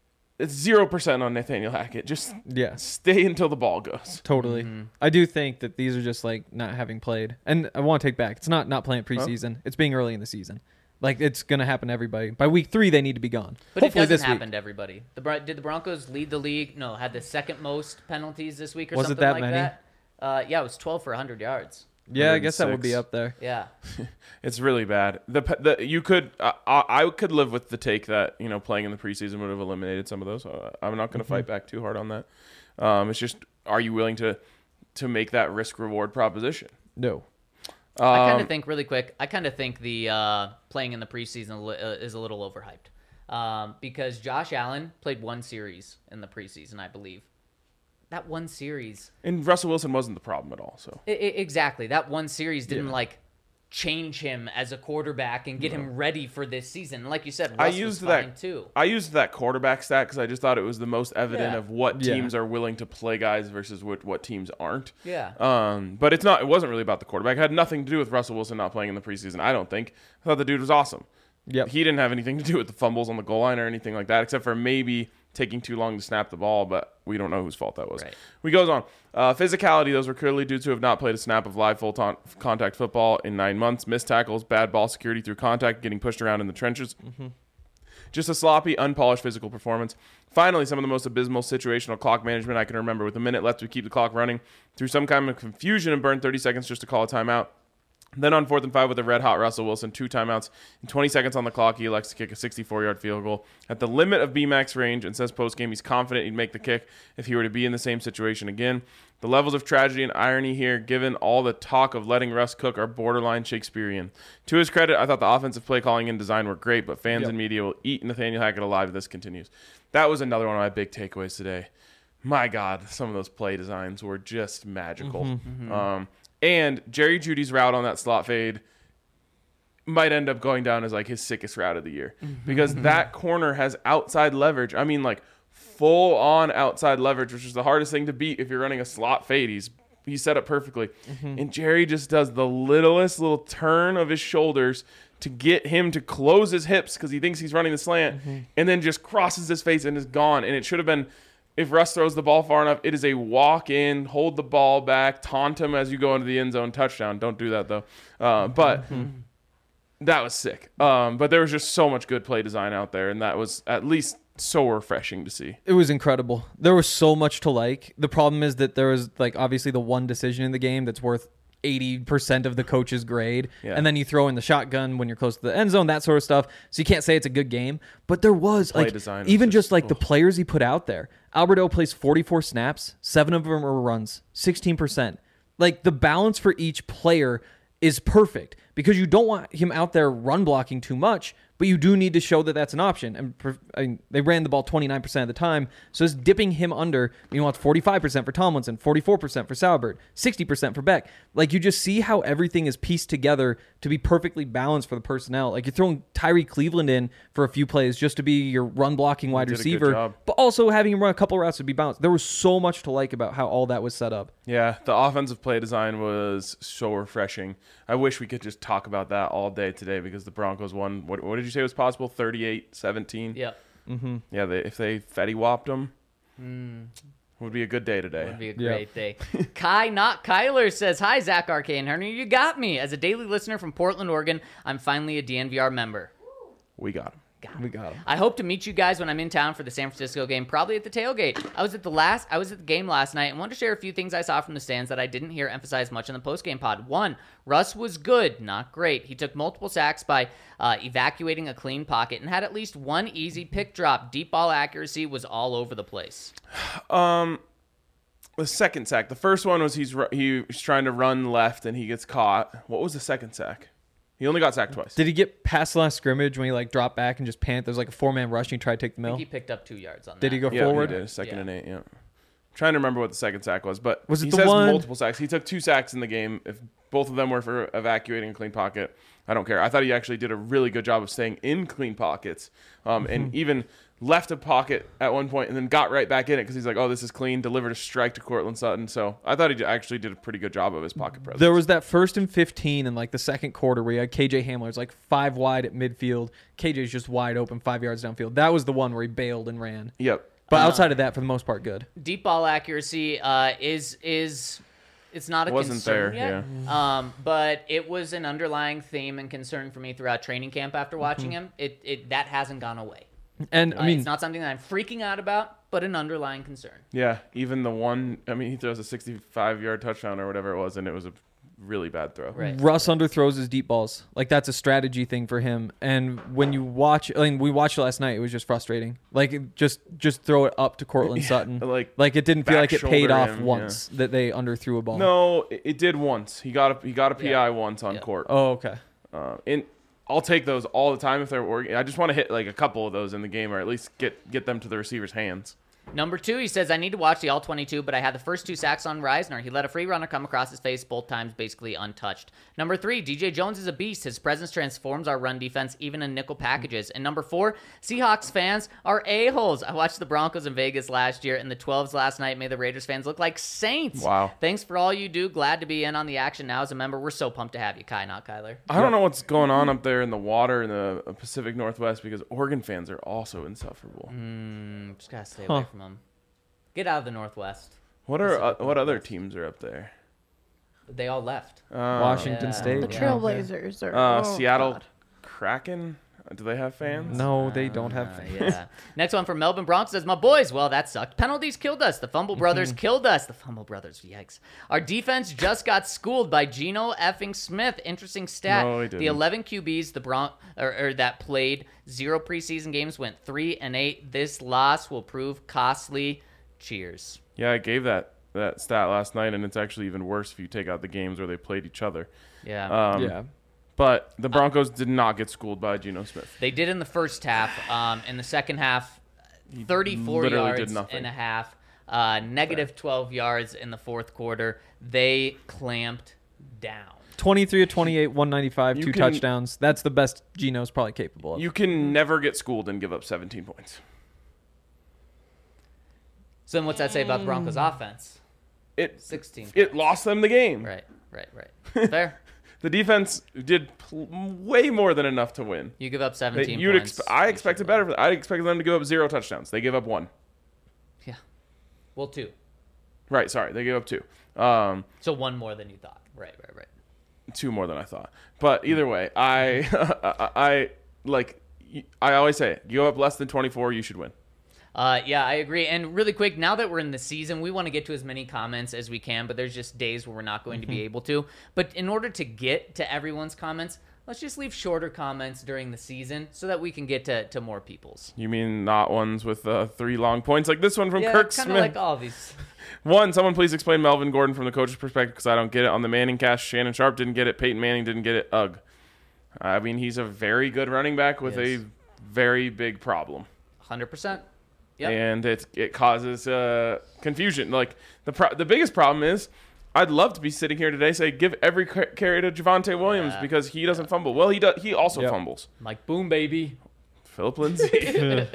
it's 0% on Nathaniel Hackett. Just Yeah. stay until the ball goes. Totally. I do think that these are just like not having played. And I want to take back. It's not playing preseason. It's being early in the season. Like it's going to happen to everybody. By week 3 they need to be gone. But Hopefully it doesn't this happen week. to everybody. Did the Broncos lead the league? No, had the second most penalties this week or Was it something that like many? that. Yeah, it was 12 for 100 yards. Yeah, I guess that would be 106. up there. Yeah. It's really bad. You could I could live with the take that playing in the preseason would have eliminated some of those. I'm not going to fight back too hard on that. It's just, are you willing to make that risk reward proposition? No. I kind of think really quick. I kind of think the playing in the preseason is a little overhyped because Josh Allen played one series in the preseason, I believe. That one series, And Russell Wilson wasn't the problem at all. So exactly. That one series didn't like change him as a quarterback and get him ready for this season. Like you said, Russ was fine too. I used that quarterback stat because I just thought it was the most evident Yeah. of what Yeah. teams are willing to play guys versus what teams aren't. Yeah. But it wasn't really about the quarterback. It had nothing to do with Russell Wilson not playing in the preseason. I don't think. I thought the dude was awesome. Yep. He didn't have anything to do with the fumbles on the goal line or anything like that, except for maybe taking too long to snap the ball, but we don't know whose fault that was. Right. We goes on. Physicality, those were clearly dudes who have not played a snap of live contact football in 9 months. Missed tackles, bad ball security through contact, getting pushed around in the trenches. Just a sloppy, unpolished physical performance. Finally, some of the most abysmal situational clock management I can remember. With a minute left to keep the clock running, through some kind of confusion and burn 30 seconds just to call a timeout. Then on 4th and 5 with a red-hot Russell Wilson, 2 timeouts, and 20 seconds on the clock, he elects to kick a 64-yard field goal at the limit of BMAX range and says post-game he's confident he'd make the kick if he were to be in the same situation again. The levels of tragedy and irony here, given all the talk of letting Russ cook, are borderline Shakespearean. To his credit, I thought the offensive play calling and design were great, but fans and media will eat Nathaniel Hackett alive if this continues. That was another one of my big takeaways today. My God, some of those play designs were just magical. And Jerry Jeudy's route on that slot fade might end up going down as like his sickest route of the year because that corner has outside leverage. I mean, like full on outside leverage, which is the hardest thing to beat if you're running a slot fade. He's set up perfectly. And Jerry just does the littlest little turn of his shoulders to get him to close his hips because he thinks he's running the slant and then just crosses his face and is gone. And it should have been, if Russ throws the ball far enough, it is a walk in, hold the ball back, taunt him as you go into the end zone, touchdown. Don't do that though. But that was sick. But there was just so much good play design out there, and that was at least so refreshing to see. It was incredible. There was so much to like. The problem is that there was like obviously the one decision in the game that's worth 80% of the coach's grade. Yeah. And then you throw in the shotgun when you're close to the end zone, that sort of stuff. So you can't say it's a good game. But there was Play like design was even just- just like the players he put out there. Alberto plays 44 snaps, 7 of them are runs, 16%. Like the balance for each player is perfect because you don't want him out there run blocking too much, but you do need to show that that's an option. And they ran the ball 29% of the time, so it's dipping him under. You want 45% for Tomlinson, 44% for Saubert, 60% for Beck. Like you just see how everything is pieced together to be perfectly balanced for the personnel. Like you're throwing Tyree Cleveland in for a few plays just to be your run blocking wide did a good receiver, job. but also having him run a couple routes to be balanced. There was so much to like about how all that was set up. Yeah, the offensive play design was so refreshing. I wish we could just talk about that all day today because the Broncos won. What did you say was possible? 38-17? Yep. Yeah, if they Fetty Whopped them, would be a good day today. Would be a Yeah. great day. Kai, not Kyler, says, "Hi, Zach, RK, and Henry. You got me. As a daily listener from Portland, Oregon, I'm finally a DNVR member. We got him. We got him. I hope to meet you guys when I'm in town for the San Francisco game, probably at the tailgate. I was at the game last night and wanted to share a few things I saw from the stands that I didn't hear emphasized much in the postgame pod. 1, Russ was good, not great. He took multiple sacks by evacuating a clean pocket and had at least one easy pick drop. Deep ball accuracy was all over the place. The second sack. The first one was he's trying to run left and he gets caught. What was the second sack? He only got sacked twice. Did he get past the last scrimmage when he like dropped back and just panicked? There's like a 4-man rush and he tried to take the I mill. think he picked up 2 yards on that. Did he go Yeah, forward? he did. Second Yeah. and 8, yeah. Trying to remember what the second sack was, but Was it he the says one- multiple sacks. He took 2 sacks in the game. If both of them were for evacuating a clean pocket, I don't care. I thought he actually did a really good job of staying in clean pockets, and even left a pocket at one point and then got right back in it because he's like, oh, this is clean, delivered a strike to Cortland Sutton. So I thought he actually did a pretty good job of his pocket presence. There was that 1st and 15 in like the second quarter where you had KJ Hamler's like 5 wide at midfield. KJ's just wide open 5 yards downfield. That was the one where he bailed and ran. Yep. But outside of that, for the most part, good. Deep ball accuracy is it's not a Wasn't concern there, yet. But it was an underlying theme and concern for me throughout training camp after watching him. It that hasn't gone away. And I mean, it's not something that I'm freaking out about, but an underlying concern. Yeah, even the one. I mean, he throws a 65-yard touchdown or whatever it was, and it was a really bad throw. Right. Russ underthrows his deep balls. Like, that's a strategy thing for him. And when you watch, I mean, we watched it last night. It was just frustrating. Like, just throw it up to Cortland Sutton. like it didn't feel like it paid shoulder off him, once that they underthrew a ball. No, it did once. He got a PI once on court. Oh, okay. And I'll take those all the time if they're working. I just want to hit like a couple of those in the game, or at least get them to the receiver's hands. Number 2, he says, I need to watch the All-22, but I had the first 2 sacks on Reisner. He let a free runner come across his face both times, basically untouched. Number 3, DJ Jones is a beast. His presence transforms our run defense, even in nickel packages. And number 4, Seahawks fans are a-holes. I watched the Broncos in Vegas last year and the 12s last night made the Raiders fans look like saints. Wow. Thanks for all you do. Glad to be in on the action now as a member. We're so pumped to have you, Kai, not Kyler. I don't know what's going on up there in the water in the Pacific Northwest, because Oregon fans are also insufferable. Just gotta stay away from them. Get out of the Northwest. What other teams are up there? They all left. Washington Yeah. State. The Trailblazers are Seattle God. Kraken. Do they have fans? No, they don't have fans. Yeah. Next one from Melbourne Bronx says, my boys, well, that sucked. Penalties killed us. The Fumble Brothers killed us. The Fumble Brothers, yikes. Our defense just got schooled by Geno effing Smith. Interesting stat. No, he didn't. The 11 QBs that played 0 preseason games went 3-8. This loss will prove costly. Cheers. Yeah, I gave that stat last night, and it's actually even worse if you take out the games where they played each other. Yeah. Yeah. But the Broncos did not get schooled by Geno Smith. They did in the first half. In the second half, 34 literally did yards nothing. and a half. Negative 12 yards in the fourth quarter. They clamped down. 23 of 28, 195, You 2 can- touchdowns. That's the best Geno's probably capable of. You can never get schooled and give up 17 points. So then what's that say about the Broncos offense? 16 It points. lost them the game. Right. Fair. The defense did way more than enough to win. You give up 17 points. I expected better. I expected them to give up 0 touchdowns. They gave up 1. Yeah. Well, 2. Right, sorry. They gave up 2. So 1 more than you thought. Right. 2 more than I thought. But either way, I always say, you go up less than 24, you should win. Yeah, I agree. And really quick, now that we're in the season, we want to get to as many comments as we can, but there's just days where we're not going to be able to. But in order to get to everyone's comments, let's just leave shorter comments during the season so that we can get to more people's. You mean not ones with 3 long points like this one from Yeah, Kirk kind Smith? of like all these. 1, someone please explain Melvin Gordon from the coach's perspective, because I don't get it. On the Manning cast, Shannon Sharp didn't get it. Peyton Manning didn't get it. Ugh. I mean, he's a very good running back with Yes. a very big problem. 100%. Yep. And it causes confusion. Like the biggest problem is, I'd love to be sitting here today say give every carry to Javonte Williams because he doesn't fumble. Well, he does. He also fumbles. Mike Boom, baby. Philip Lindsay.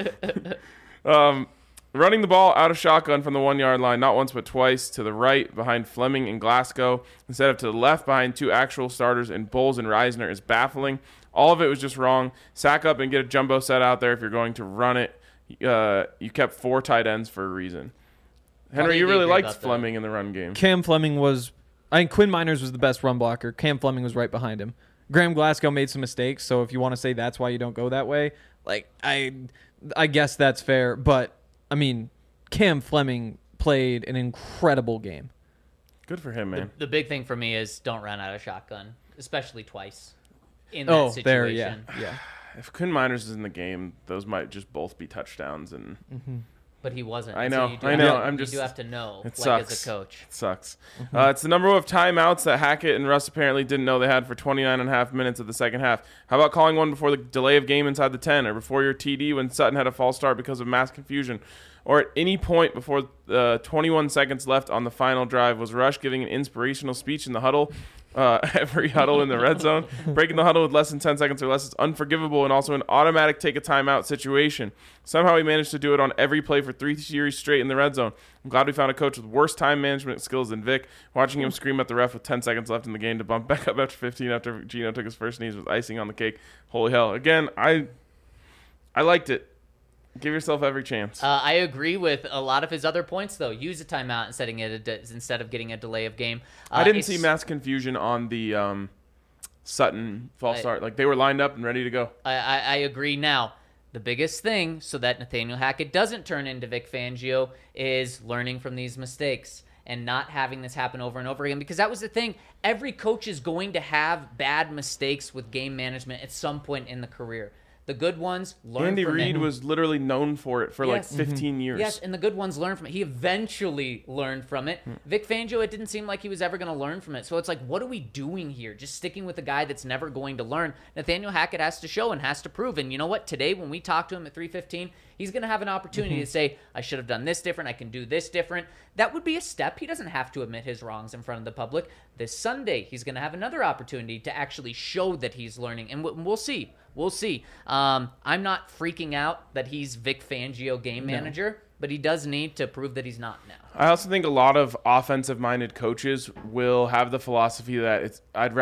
Running the ball out of shotgun from the 1-yard line, not once but twice, to the right behind Fleming and Glasgow, instead of to the left behind 2 actual starters in Bowles and Reisner, is baffling. All of it was just wrong. Sack up and get a jumbo set out there if you're going to run it. You kept 4 tight ends for a reason. Henry, you really liked Fleming in the run game. Cam Fleming was, I think Quinn Miners was the best run blocker. Cam Fleming was right behind him. Graham Glasgow made some mistakes, so if you want to say that's why you don't go that way, like I guess that's fair. But I mean, Cam Fleming played an incredible game. Good for him, man. The big thing for me is don't run out of shotgun, especially twice in that situation. there, yeah. If Quinn Miners is in the game, those might just both be touchdowns, and But he wasn't. I And know, So you do I have know. to- I'm you just- do have to know, it like sucks. as a coach. It sucks. It's the number of timeouts that Hackett and Russ apparently didn't know they had for 29.5 minutes of the second half. How about calling one before the delay of game inside the 10, or before your TD when Sutton had a false start because of mass confusion, or at any point before 21 seconds left on the final drive? Was Rush giving an inspirational speech in the huddle? Every huddle in the red zone. Breaking the huddle with less than 10 seconds or less is unforgivable and also an automatic take a timeout situation. Somehow he managed to do it on every play for 3 series straight in the red zone. I'm glad we found a coach with worse time management skills than Vic. Watching him scream at the ref with 10 seconds left in the game to bump back up after 15 after Geno took his first knees was icing on the cake. Holy hell. Again, I liked it. Give yourself every chance. I agree with a lot of his other points, though. Use a timeout instead of getting a delay of game. I didn't see mass confusion on the Sutton false start. Like, they were lined up and ready to go. I agree. Now, the biggest thing so that Nathaniel Hackett doesn't turn into Vic Fangio is learning from these mistakes and not having this happen over and over again, because that was the thing. Every coach is going to have bad mistakes with game management at some point in the career. The good ones learn Andy from Reid it. was literally known for it for like Yes. 15 years. Yes, and the good ones learn from it. He eventually learned from it. Vic Fangio, it didn't seem like he was ever going to learn from it. So it's like, what are we doing here? Just sticking with a guy that's never going to learn. Nathaniel Hackett has to show and has to prove. And you know what? Today, when we talk to him at 3:15, he's going to have an opportunity to say, I should have done this different. I can do this different. That would be a step. He doesn't have to admit his wrongs in front of the public. This Sunday, he's going to have another opportunity to actually show that he's learning. And we'll see. We'll see. I'm not freaking out that he's Vic Fangio game manager, but he does need to prove that he's not now. I also think a lot of offensive-minded coaches will have the philosophy that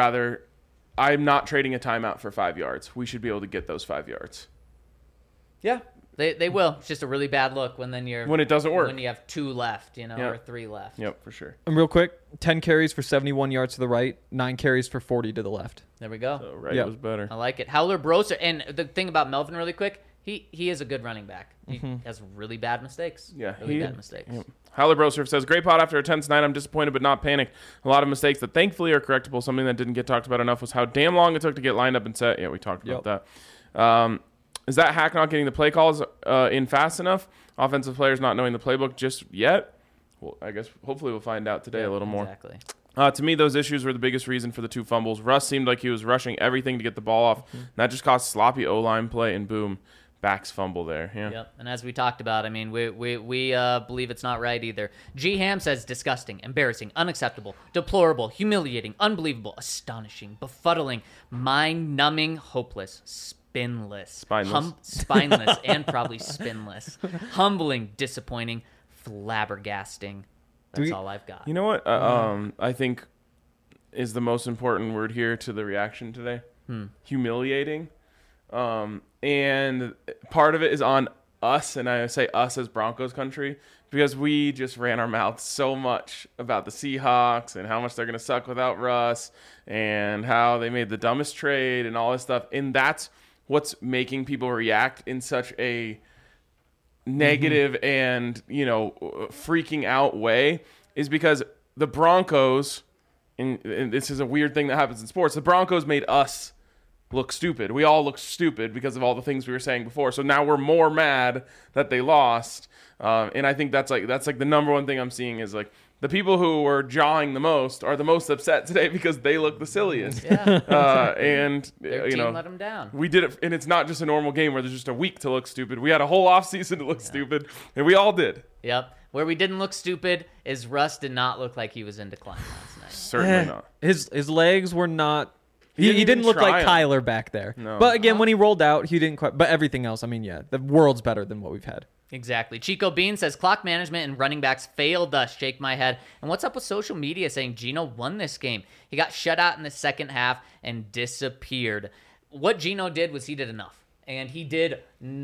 I'm not trading a timeout for 5 yards. We should be able to get those 5 yards. Yeah, they will. It's just a really bad look when it doesn't work. When you have 2 left, Yep. or 3 left. Yep, for sure. And real quick, 10 carries for 71 yards to the right, 9 carries for 40 to the left. There we go. So, right, Yep. it was better. I like it. Howler Broser, and the thing about Melvin, really quick, he is a good running back. He has really bad mistakes. Yeah, really bad mistakes. Yep. Howler Brosurf says, great pot after a tense night. I'm disappointed but not panicked. A lot of mistakes that thankfully are correctable. Something that didn't get talked about enough was how damn long it took to get lined up and set. Yeah, we talked about that. Is that Hack not getting the play calls in fast enough? Offensive players not knowing the playbook just yet? Well, I guess hopefully we'll find out today a little more. Exactly. To me, those issues were the biggest reason for the 2 fumbles. Russ seemed like he was rushing everything to get the ball off. That just caused sloppy O-line play, and boom, backs fumble there. Yeah. Yep. And as we talked about, I mean, we believe it's not right either. G. Ham says disgusting, embarrassing, unacceptable, deplorable, humiliating, unbelievable, astonishing, befuddling, mind-numbing, hopeless, spineless, spineless, and probably spinless, humbling, disappointing, flabbergasting. That's all I've got. You know what? I think is the most important word here to the reaction today. Humiliating. And part of it is on us, and I say us as Broncos country, because we just ran our mouths so much about the Seahawks and how much they're going to suck without Russ and how they made the dumbest trade and all this stuff. And that's what's making people react in such a negative and, freaking out way, is because the Broncos, and this is a weird thing that happens in sports, the Broncos made us look stupid. We all look stupid because of all the things we were saying before. So now we're more mad that they lost. And I think that's like the number one thing I'm seeing is like the people who were jawing the most are the most upset today because they look the silliest. Yeah. And Their team let them down. we did it, and it's not just a normal game where there's just a week to look stupid. We had a whole offseason to look stupid, and we all did. Yep. Where we didn't look stupid is Russ did not look like he was in decline last night. Certainly not. His legs were not. He didn't didn't look try like him. Kyler back there. No. But again, when he rolled out, he didn't quite. But everything else, I mean, yeah, the world's better than what we've had. Exactly. Chico Bean says clock management and running backs failed us. Shake my head. And what's up with social media saying Geno won this game? He got shut out in the second half and disappeared. What Geno did was he did enough. And he did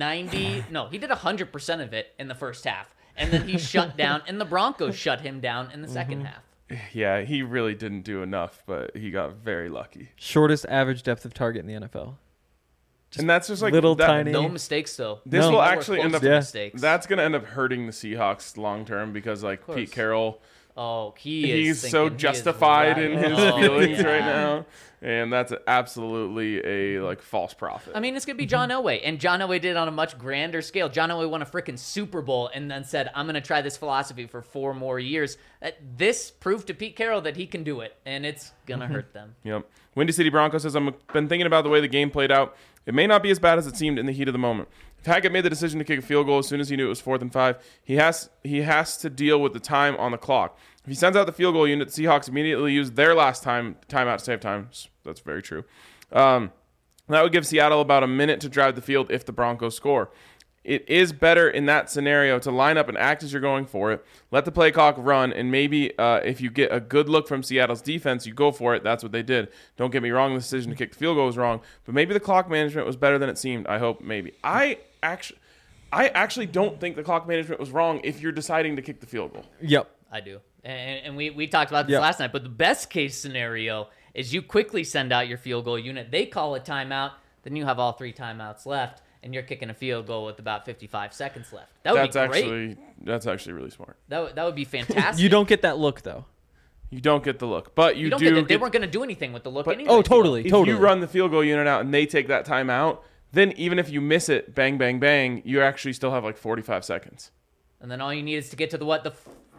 100% of it in the first half. And then he shut down, and the Broncos shut him down in the second half. Yeah, he really didn't do enough, but he got very lucky. Shortest average depth of target in the NFL. And that's just like little that, tiny- No mistakes, though. This No. will Nowhere actually close end up. to Yeah. mistakes. That's going to end up hurting the Seahawks long term because like course. Pete Carroll, Oh, he's thinking so he is justified in right. his Oh, feelings yeah. right now, and that's absolutely a like false prophet. I mean, it's going to be John Elway, and John Elway did it on a much grander scale. John Elway won a freaking Super Bowl and then said, I'm going to try this philosophy for 4 more years. This proved to Pete Carroll that he can do it, and it's going to hurt them. Yep. Windy City Broncos says, I've been thinking about the way the game played out. It may not be as bad as it seemed in the heat of the moment. If Hackett made the decision to kick a field goal as soon as he knew it was 4th and 5, he has to deal with the time on the clock. If he sends out the field goal unit, the Seahawks immediately use their last timeout to save time. That's very true. That would give Seattle about a minute to drive the field if the Broncos score. It is better in that scenario to line up and act as you're going for it. Let the play clock run, and maybe if you get a good look from Seattle's defense, you go for it. That's what they did. Don't get me wrong, the decision to kick the field goal was wrong, but maybe the clock management was better than it seemed. I hope, maybe. I actually don't think the clock management was wrong if you're deciding to kick the field goal. Yep. I do. And we talked about this last night, but the best case scenario is you quickly send out your field goal unit. They call a timeout, then you have all 3 timeouts left, and you're kicking a field goal with about 55 seconds left. That would be great. That's actually really smart. That would be fantastic. You don't get that look though. You don't get the look, but You don't get it. They weren't going to do anything with the look anyway. Oh, totally, If totally. you run the field goal unit out and they take that time out, then even if you miss it, bang, bang, bang, you actually still have like 45 seconds. And then all you need is to get to the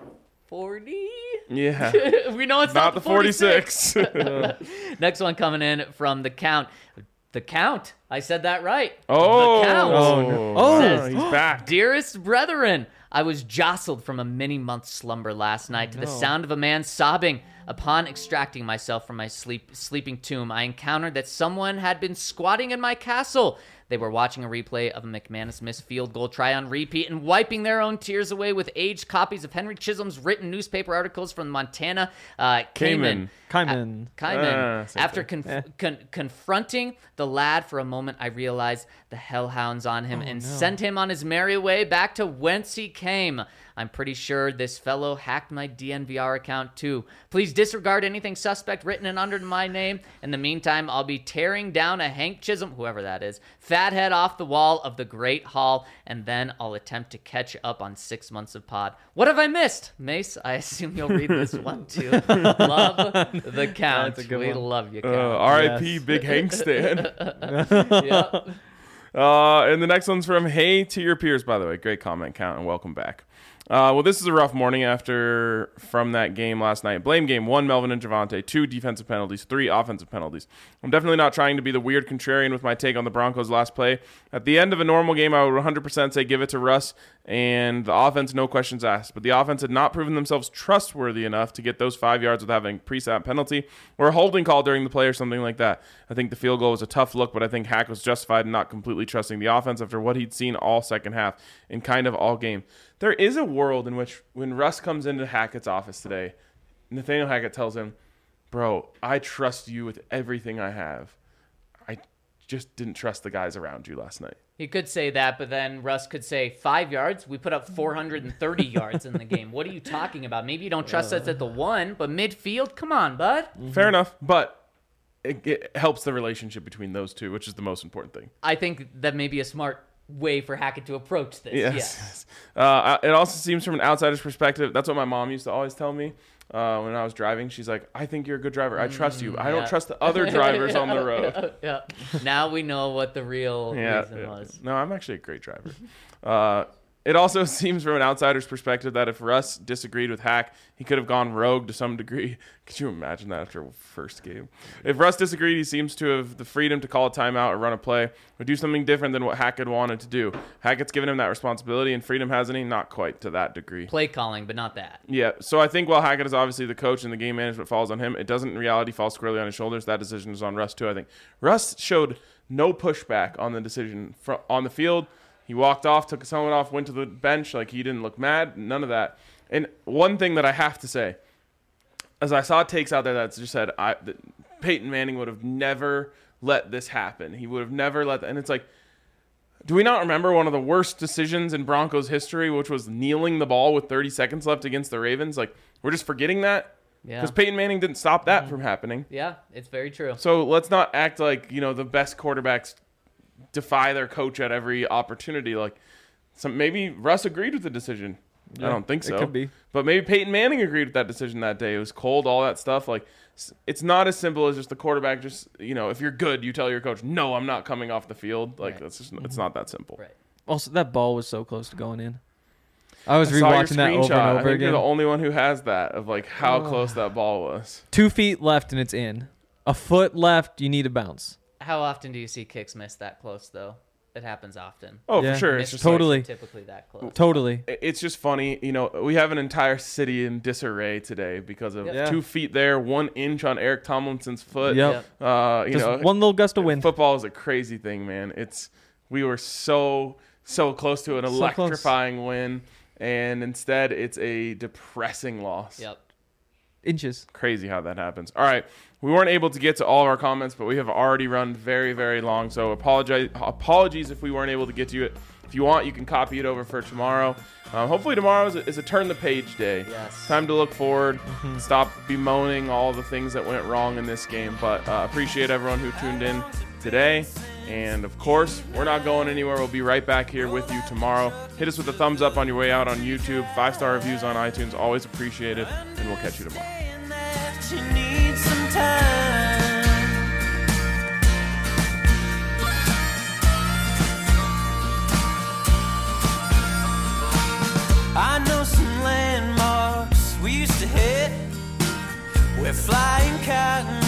40? Yeah. We know it's Not the the 46. Next one coming in from the Count. The Count. I said that right. Oh. The Count. Oh, no. Oh. Says, He's back. Dearest brethren, I was jostled from a many-month slumber last night to the sound of a man sobbing. Upon extracting myself from my sleeping tomb, I encountered that someone had been squatting in my castle. They were watching a replay of a McManus missed field goal try on repeat and wiping their own tears away with aged copies of Henry Chisholm's written newspaper articles from Montana Cayman. Kaiman. Kaiman. Same After thing. confronting the lad for a moment, I realized the hellhounds on him and sent him on his merry way back to whence he came. I'm pretty sure this fellow hacked my DNVR account too. Please disregard anything suspect written and under my name. In the meantime, I'll be tearing down a Hank Chisholm, whoever that is, fathead off the wall of the Great Hall, and then I'll attempt to catch up on 6 months of pod. What have I missed? Mace, I assume you'll read this one too. Love the Count. That's a good We one. love you, Count. R.I.P. Yes. Big Hank Stan. Yep. And the next one's from Hey to Your Peers, by the way. Great comment, Count, and welcome back. Well, this is a rough morning from that game last night. Blame game: 1, Melvin and Javonte; 2, defensive penalties; 3, offensive penalties. I'm definitely not trying to be the weird contrarian with my take on the Broncos' last play. At the end of a normal game, I would 100% say give it to Russ and the offense, no questions asked. But the offense had not proven themselves trustworthy enough to get those 5 yards without having a pre-snap penalty or a holding call during the play or something like that. I think the field goal was a tough look, but I think Hack was justified in not completely trusting the offense after what he'd seen all second half and kind of all game. There is a world in which when Russ comes into Hackett's office today, Nathaniel Hackett tells him, bro, I trust you with everything I have. I just didn't trust the guys around you last night. He could say that, but then Russ could say 5 yards. We put up 430 yards in the game. What are you talking about? Maybe you don't trust us at the 1, but midfield? Come on, bud. Fair enough, but it helps the relationship between those two, which is the most important thing. I think that may be a smart way for Hackett to approach this. Yes. It also seems from an outsider's perspective, that's what my mom used to always tell me when I was driving. She's like, I think you're a good driver. I trust you. I don't trust the other drivers on the road. Yeah. Now we know what the real reason was. No, I'm actually a great driver. It also seems from an outsider's perspective that if Russ disagreed with Hack, he could have gone rogue to some degree. Could you imagine that after a first game? If Russ disagreed, he seems to have the freedom to call a timeout or run a play or do something different than what Hackett wanted to do. Hackett's given him that responsibility and freedom, hasn't he? Not quite to that degree. Play calling, but not that. Yeah, so I think while Hackett is obviously the coach and the game management falls on him, it doesn't in reality fall squarely on his shoulders. That decision is on Russ too, I think. Russ showed no pushback on the decision on the field. He walked off, took his helmet off, went to the bench. Like, he didn't look mad. None of that. And one thing that I have to say, as I saw takes out there that just said that Peyton Manning would have never let this happen. He would have never let that. And it's like, do we not remember one of the worst decisions in Broncos history, which was kneeling the ball with 30 seconds left against the Ravens? Like, we're just forgetting that? Yeah. Because Peyton Manning didn't stop that from happening. Yeah, it's very true. So let's not act like, the best quarterbacks defy their coach at every opportunity. Like, maybe Russ agreed with the decision. Yeah, I don't think so. it could be. But maybe Peyton Manning agreed with that decision that day. It was cold, all that stuff. Like, it's not as simple as just the quarterback just, if you're good, you tell your coach, no, I'm not coming off the field. Like, Right. that's just, it's not that simple. Right. Also, that ball was so close to going in. I was I saw your rewatching that over screenshot. and I over think you're again. the only one who has that of like how close that ball was. 2 feet left and it's in. A foot left, you need a bounce. How often do you see kicks miss that close, though? It happens often. Oh, Yeah. for sure. It's Missed just totally. kicks are typically that close. Totally. It's just funny, we have an entire city in disarray today because of Yeah. 2 feet there, 1 inch on Eric Tomlinson's foot. Yep. Just one little gust of wind. Football is a crazy thing, man. We were so close to an So electrifying win, and instead it's a depressing loss. Yep. Inches. Crazy how that happens. All right. We weren't able to get to all of our comments, but we have already run very, very long. So apologies if we weren't able to get to it. If you want, you can copy it over for tomorrow. Hopefully tomorrow is a turn the page day. Yes. Time to look forward. Stop bemoaning all the things that went wrong in this game. But appreciate everyone who tuned in today. And of course, we're not going anywhere. We'll be right back here with you tomorrow. Hit us with a thumbs up on your way out on YouTube. 5-star reviews on iTunes, always appreciated. And we'll catch you tomorrow. I know some landmarks we used to hit. We're flying cotton